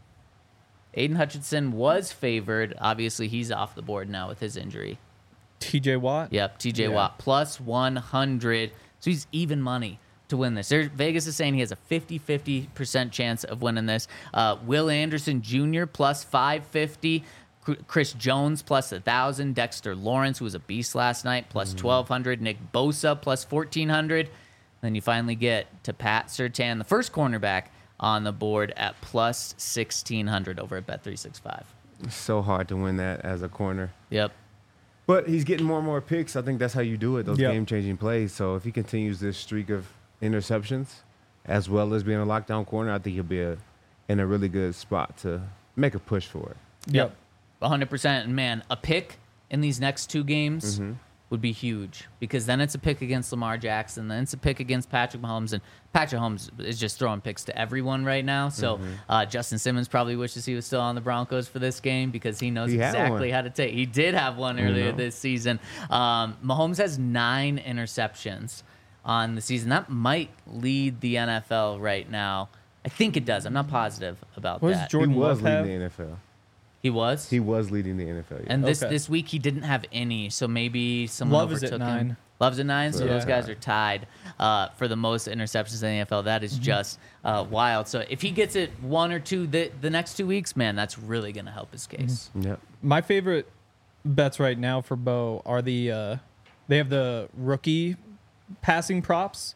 Speaker 2: Aiden Hutchinson was favored. Obviously, he's off the board now with his injury.
Speaker 4: T J Watt.
Speaker 2: Yep, T J
Speaker 3: Yeah.
Speaker 2: Watt plus one hundred. So he's even money to win this. There, Vegas is saying he has a fifty-fifty percent chance of winning this. Uh, Will Anderson Junior plus five fifty. Chris Jones plus one thousand. Dexter Lawrence, who was a beast last night, plus twelve hundred. Nick Bosa plus fourteen hundred. Then you finally get to Pat Surtain, the first cornerback, on the board at plus sixteen hundred over at Bet three sixty-five.
Speaker 3: It's so hard to win that as a corner.
Speaker 2: Yep.
Speaker 3: But he's getting more and more picks. I think that's how you do it, those
Speaker 4: Yep.
Speaker 3: game-changing plays. So if he continues this streak of interceptions, as well as being a lockdown corner, I think he'll be a, in a really good spot to make a push for it.
Speaker 4: Yep.
Speaker 2: one hundred percent. And man, a pick in these next two games
Speaker 3: Mm-hmm.
Speaker 2: would be huge, because then it's a pick against Lamar Jackson, then it's a pick against Patrick Mahomes, and Patrick Mahomes is just throwing picks to everyone right now. So
Speaker 3: Mm-hmm.
Speaker 2: uh, Justin Simmons probably wishes he was still on the Broncos for this game, because he knows
Speaker 3: He had
Speaker 2: exactly
Speaker 3: one.
Speaker 2: how to take. He did have one earlier
Speaker 3: know.
Speaker 2: this season. Um, Mahomes has nine interceptions on the season. That might lead the N F L right now. I think it does. I'm not positive about
Speaker 4: What does
Speaker 2: that.
Speaker 4: Jordan
Speaker 3: he was
Speaker 4: Love have?
Speaker 3: leading the N F L.
Speaker 2: he was.
Speaker 3: He was leading the N F L. Yeah.
Speaker 2: And this
Speaker 4: Okay.
Speaker 2: this week he didn't have any, so maybe someone
Speaker 4: Love is
Speaker 2: overtook
Speaker 4: at
Speaker 2: him.
Speaker 4: nine.
Speaker 2: Love's at nine, so
Speaker 3: Yeah.
Speaker 2: those guys are tied uh, for the most interceptions in the N F L. That is just uh, wild. So if he gets it one or two the, the next two weeks, man, that's really going to help his case.
Speaker 3: Yep.
Speaker 4: My favorite bets right now for Bo are the uh, they have the rookie passing props.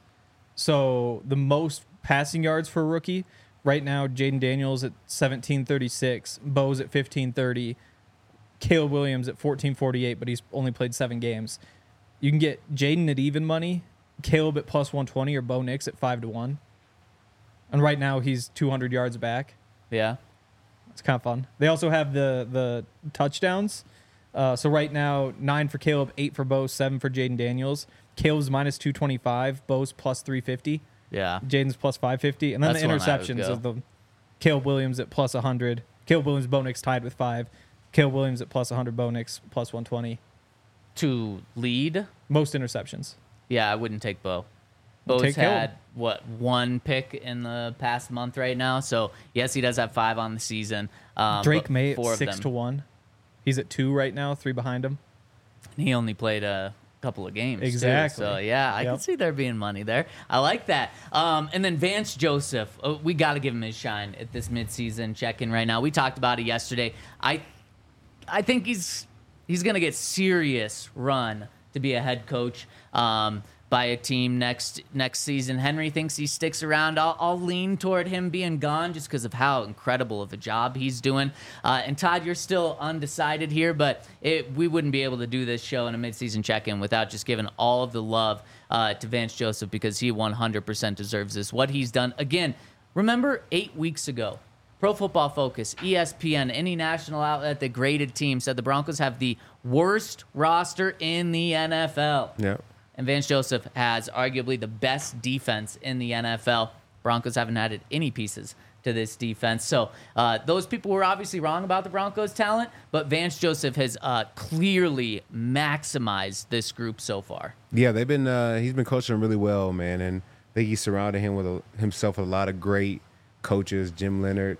Speaker 4: So the most passing yards for a rookie right now, Jaden Daniels at seventeen thirty-six, Bo's at fifteen thirty, Caleb Williams at fourteen forty-eight, but he's only played seven games. You can get Jaden at even money, Caleb at plus one twenty, or Bo Nix at five to one. And right now he's two hundred yards back.
Speaker 2: Yeah.
Speaker 4: It's kind of fun. They also have the the touchdowns. Uh, so right now, nine for Caleb, eight for Bo, seven for Jaden Daniels. Caleb's minus two twenty five, Bo's plus three fifty,
Speaker 2: Yeah.
Speaker 4: Jaden's plus five fifty, and then
Speaker 2: That's
Speaker 4: the
Speaker 2: one I would
Speaker 4: interceptions
Speaker 2: go.
Speaker 4: of the Caleb Williams at plus a hundred, Caleb Williams, Bo Nix tied with five, Caleb Williams at plus a hundred, Bo Nix plus one twenty.
Speaker 2: To lead,
Speaker 4: Most interceptions.
Speaker 2: yeah, I wouldn't take Bo. Bo's
Speaker 4: Take
Speaker 2: had,
Speaker 4: Caleb.
Speaker 2: what, one pick in the past month right now. So, yes, he does have five on the season. Um,
Speaker 4: Drake
Speaker 2: but
Speaker 4: May
Speaker 2: four
Speaker 4: at
Speaker 2: of
Speaker 4: six
Speaker 2: them.
Speaker 4: to one. He's at two right now, three behind him.
Speaker 2: He only played a couple of games. too.
Speaker 4: Exactly.
Speaker 2: So, yeah, I
Speaker 4: Yep.
Speaker 2: can see there being money there. I like that. Um, and then Vance Joseph, oh, we got to give him his shine at this midseason check-in right now. We talked about it yesterday. I I think he's he's going to get serious run to be a head coach um, by a team next next season. Henry thinks he sticks around. I'll, I'll lean toward him being gone just because of how incredible of a job he's doing. Uh, and Todd, you're still undecided here, but it, we wouldn't be able to do this show in a midseason check-in without just giving all of the love uh, to Vance Joseph, because he one hundred percent deserves this. What he's done, again, remember eight weeks ago, Pro Football Focus, E S P N, any national outlet that graded team said the Broncos have the worst roster in the N F L.
Speaker 3: Yep.
Speaker 2: And Vance Joseph has arguably the best defense in the N F L. Broncos haven't added any pieces to this defense. So uh, those people were obviously wrong about the Broncos' talent, but Vance Joseph has uh, clearly maximized this group so far.
Speaker 3: Yeah, they've been. Uh, he's been coaching them really well, man, and I think he surrounded him with a, himself with a lot of great coaches, Jim Leonard,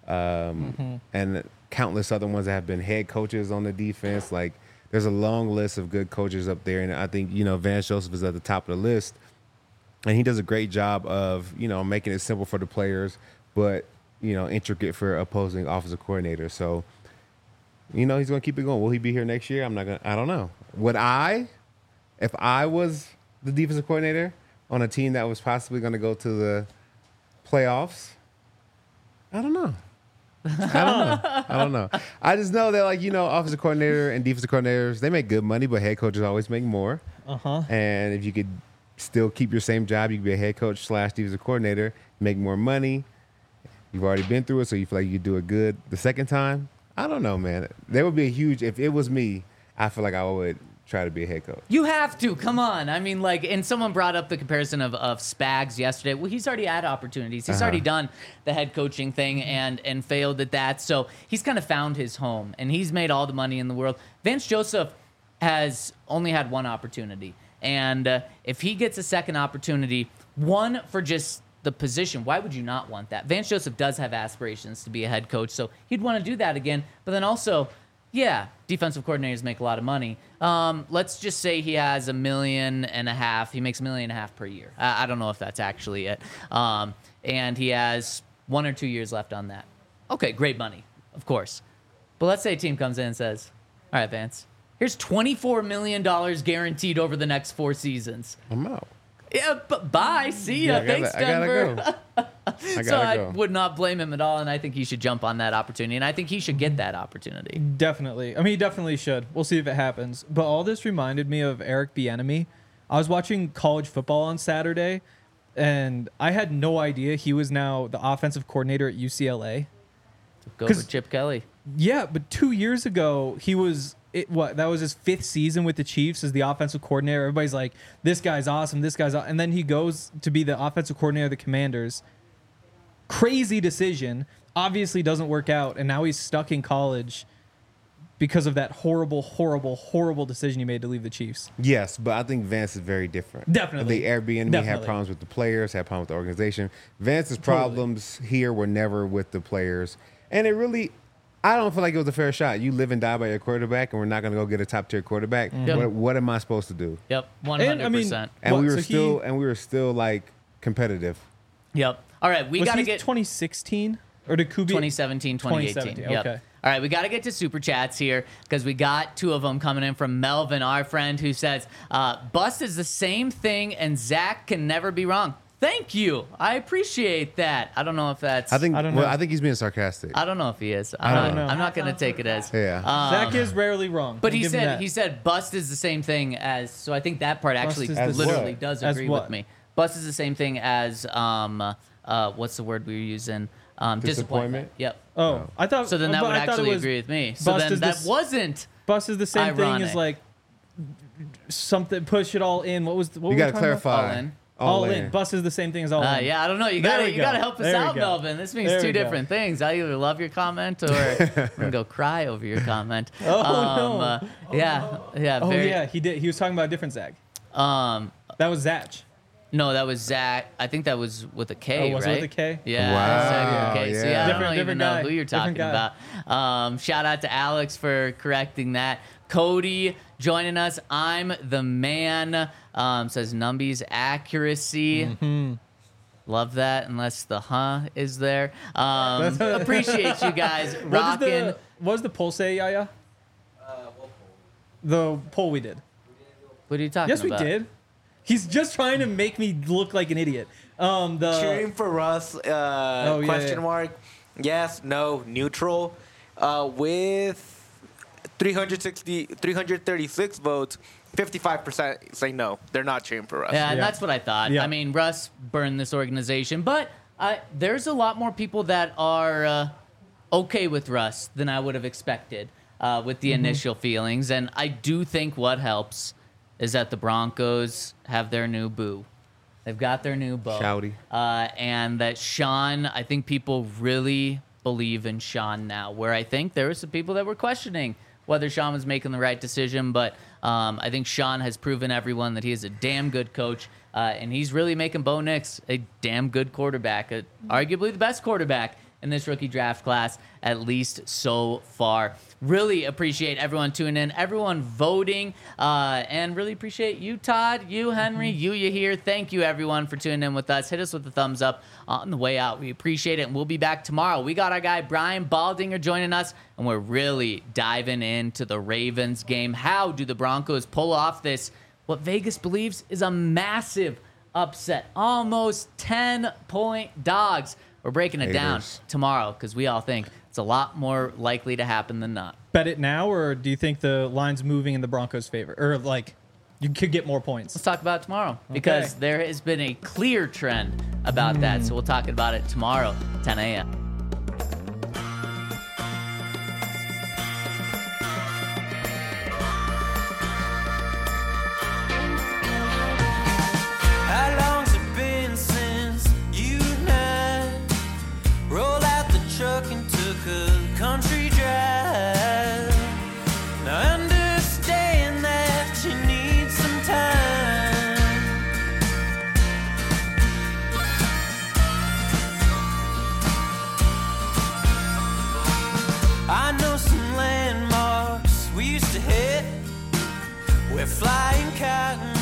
Speaker 3: um, and countless other ones that have been head coaches on the defense. Like, there's a long list of good coaches up there, and I think, you know, Vance Joseph is at the top of the list, and he does a great job of, you know, making it simple for the players, but, you know, intricate for opposing offensive coordinators. So, you know, he's going to keep it going. Will he be here next year? I'm not going to, I don't know. Would I, if I was the defensive coordinator on a team that was possibly going to go to the playoffs, I don't know. I don't know. I don't know. I just know that, like, you know, offensive coordinator and defensive coordinators, they make good money, but head coaches always make more.
Speaker 4: Uh-huh.
Speaker 3: And if you could still keep your same job, you could be a head coach slash defensive coordinator, make more money. You've already been through it, so you feel like you do it good the second time. I don't know, man. There would be a huge, if it was me, I feel like I would try to be a head coach.
Speaker 2: You have to. Come on. I mean, like, and someone brought up the comparison of, of Spags yesterday. Well, he's already had opportunities. He's
Speaker 3: Uh-huh.
Speaker 2: already done the head coaching thing and and failed at that. So he's kind of found his home, and he's made all the money in the world. Vance Joseph has only had one opportunity. And uh, if he gets a second opportunity, one for just the position, why would you not want that? Vance Joseph does have aspirations to be a head coach, so he'd want to do that again. But then also, yeah, defensive coordinators make a lot of money. Um, let's just say he has a million and a half. He makes a million and a half per year. I, I don't know if that's actually it. Um, and he has one or two years left on that. Okay, great money, of course. But let's say a team comes in and says, all right, Vance, here's twenty-four million dollars guaranteed over the next four seasons.
Speaker 3: I'm out.
Speaker 2: Yeah, but bye. See ya.
Speaker 3: Yeah, I gotta-
Speaker 2: Thanks,
Speaker 3: I gotta
Speaker 2: Denver.
Speaker 3: go. I
Speaker 2: so
Speaker 3: gotta
Speaker 2: I
Speaker 3: go.
Speaker 2: would not blame him at all, and I think he should jump on that opportunity, and I think he should get that opportunity.
Speaker 4: Definitely. I mean, he definitely should. We'll see if it happens. But all this reminded me of Eric Bieniemy. I was watching college football on Saturday, and I had no idea he was now the offensive coordinator at U C L A.
Speaker 2: Go
Speaker 4: 'Cause-
Speaker 2: for Chip Kelly.
Speaker 4: Yeah, but two years ago, he was it. What that was his fifth season with the Chiefs as the offensive coordinator. Everybody's like, "This guy's awesome. This guy's," aw-. And then he goes to be the offensive coordinator of the Commanders. Crazy decision. Obviously, doesn't work out, and now he's stuck in college because of that horrible, horrible, horrible decision he made to leave the Chiefs.
Speaker 3: Yes, but I think Vance is very different.
Speaker 4: Definitely.
Speaker 3: The Airbnb had
Speaker 4: Definitely.
Speaker 3: problems with the players, had problems with the organization. Vance's
Speaker 4: Totally.
Speaker 3: problems here were never with the players. And it really, I don't feel like it was a fair shot. You live and die by your quarterback, and we're not going to go get a top tier quarterback.
Speaker 2: Yep.
Speaker 3: What, what am I supposed to do?
Speaker 2: Yep, one
Speaker 4: And,
Speaker 2: hundred
Speaker 4: I mean,
Speaker 2: percent.
Speaker 3: And
Speaker 4: What,
Speaker 3: we
Speaker 4: so
Speaker 3: were
Speaker 4: he-
Speaker 3: still, and we were still like competitive.
Speaker 2: Yep. All right, we
Speaker 4: Was
Speaker 2: got to
Speaker 4: he
Speaker 2: get
Speaker 4: twenty sixteen or did Kubi?
Speaker 2: twenty seventeen, twenty eighteen.
Speaker 4: twenty seventeen,
Speaker 2: Yep.
Speaker 4: okay.
Speaker 2: All right, we got to get to super chats here because we got two of them coming in from Melvin, our friend, who says, uh, Bust is the same thing and Zach can never be wrong. Thank you. I appreciate that. I don't know if that's.
Speaker 3: I think.
Speaker 4: I don't
Speaker 3: well,
Speaker 4: know.
Speaker 3: I think he's being sarcastic.
Speaker 2: I don't know if he is. I'm
Speaker 3: I
Speaker 2: not,
Speaker 3: don't
Speaker 4: know.
Speaker 2: I'm not going to take it as.
Speaker 3: Yeah.
Speaker 2: Um,
Speaker 4: Zach is rarely wrong.
Speaker 2: But
Speaker 4: I'll
Speaker 2: he
Speaker 4: give him
Speaker 2: said
Speaker 4: that.
Speaker 2: he said bust is the same thing as. So I think that part actually
Speaker 4: is
Speaker 3: the
Speaker 2: literally
Speaker 3: what?
Speaker 2: does
Speaker 4: As
Speaker 2: agree
Speaker 4: what?
Speaker 2: with me. Bust is the same thing as um uh what's the word we were using um disappointment.
Speaker 3: Disappointment?
Speaker 2: Yep.
Speaker 4: Oh, I thought.
Speaker 2: So then that
Speaker 4: but
Speaker 2: would
Speaker 4: I thought it
Speaker 2: actually
Speaker 4: was-
Speaker 2: agree with me. So
Speaker 4: bust
Speaker 2: then
Speaker 4: is
Speaker 2: that
Speaker 4: this-
Speaker 2: wasn't.
Speaker 4: Bust is the same thing
Speaker 2: Ironic.
Speaker 4: as like something. Push it all in. What was the, what
Speaker 3: you
Speaker 4: were we
Speaker 3: got to
Speaker 4: talking about?
Speaker 3: clarify.
Speaker 2: All in.
Speaker 4: All, in. Bust is the same thing as all
Speaker 2: Uh,
Speaker 4: in.
Speaker 2: yeah, I don't know. You
Speaker 4: There
Speaker 2: got
Speaker 4: we
Speaker 2: you
Speaker 4: go.
Speaker 2: got to help us
Speaker 4: There we
Speaker 2: out,
Speaker 4: go.
Speaker 2: Melvin. This means
Speaker 4: There
Speaker 2: two
Speaker 4: we go.
Speaker 2: different things. I either love your comment or I'm gonna go cry over your comment.
Speaker 4: Oh,
Speaker 2: um,
Speaker 4: no.
Speaker 2: uh, yeah, yeah.
Speaker 4: Oh
Speaker 2: very,
Speaker 4: yeah, he did. He was talking about a different Zach.
Speaker 2: Um,
Speaker 4: That was Zach.
Speaker 2: no, that was Zach. I think that was with a K,
Speaker 4: Oh, was it
Speaker 2: right?
Speaker 4: with a K?
Speaker 2: Yeah.
Speaker 3: Wow,
Speaker 2: Zach with a K. So
Speaker 3: yeah.
Speaker 2: yeah, I
Speaker 4: Different-
Speaker 2: don't even
Speaker 4: different
Speaker 2: know
Speaker 4: guy.
Speaker 2: who you're
Speaker 4: Different
Speaker 2: talking
Speaker 4: guy.
Speaker 2: about. Um, shout out to Alex for correcting that. Cody joining us. I'm the man. Um, says Numby's accuracy.
Speaker 4: Mm-hmm.
Speaker 2: Love that, unless the huh is there. Um, appreciate you guys
Speaker 4: What,
Speaker 2: rocking.
Speaker 4: did the, what does the poll say, Yaya? The poll we did.
Speaker 2: What are you talking
Speaker 4: Yes, we
Speaker 2: about?
Speaker 4: did. He's just trying to make me look like an idiot. Um, the
Speaker 5: Cheering for Russ? Uh,
Speaker 4: Oh, yeah,
Speaker 5: question
Speaker 4: yeah.
Speaker 5: mark. Yes, no, neutral. Uh, with three hundred sixty, three hundred thirty-six votes, fifty-five percent say no. They're not cheering for Russ.
Speaker 2: Yeah, and
Speaker 4: Yeah.
Speaker 2: that's what I thought.
Speaker 4: Yeah.
Speaker 2: I mean, Russ burned this organization, but uh, there's a lot more people that are uh, okay with Russ than I would have expected uh, with the
Speaker 4: Mm-hmm.
Speaker 2: initial feelings. And I do think what helps is that the Broncos have their new boo. They've got their new beau.
Speaker 3: Shouty.
Speaker 2: Uh, and that Sean, I think people really believe in Sean now, where I think there were some people that were questioning whether Sean was making the right decision. But um, I think Sean has proven everyone that he is a damn good coach. Uh, and he's really making Bo Nix a damn good quarterback, a, arguably the best quarterback in this rookie draft class, at least so far. Really appreciate everyone tuning in, everyone voting, uh, and really appreciate you, Todd, you, Henry, you, you here. Thank you, everyone, for tuning in with us. Hit us with a thumbs up on the way out. We appreciate it, and we'll be back tomorrow. We got our guy Brian Baldinger joining us, and we're really diving into the Ravens game. How do the Broncos pull off this, what Vegas believes is a massive upset? Almost ten-point dogs. We're breaking it down
Speaker 3: Haters.
Speaker 2: tomorrow because we all think it's a lot more likely to happen than not.
Speaker 4: bet it now, or do you think the line's moving in the Broncos' favor, or like you could get more points?
Speaker 2: Let's talk about it tomorrow because there has been a clear trend about that. So we'll talk about it tomorrow, ten a.m.
Speaker 1: We're flying cotton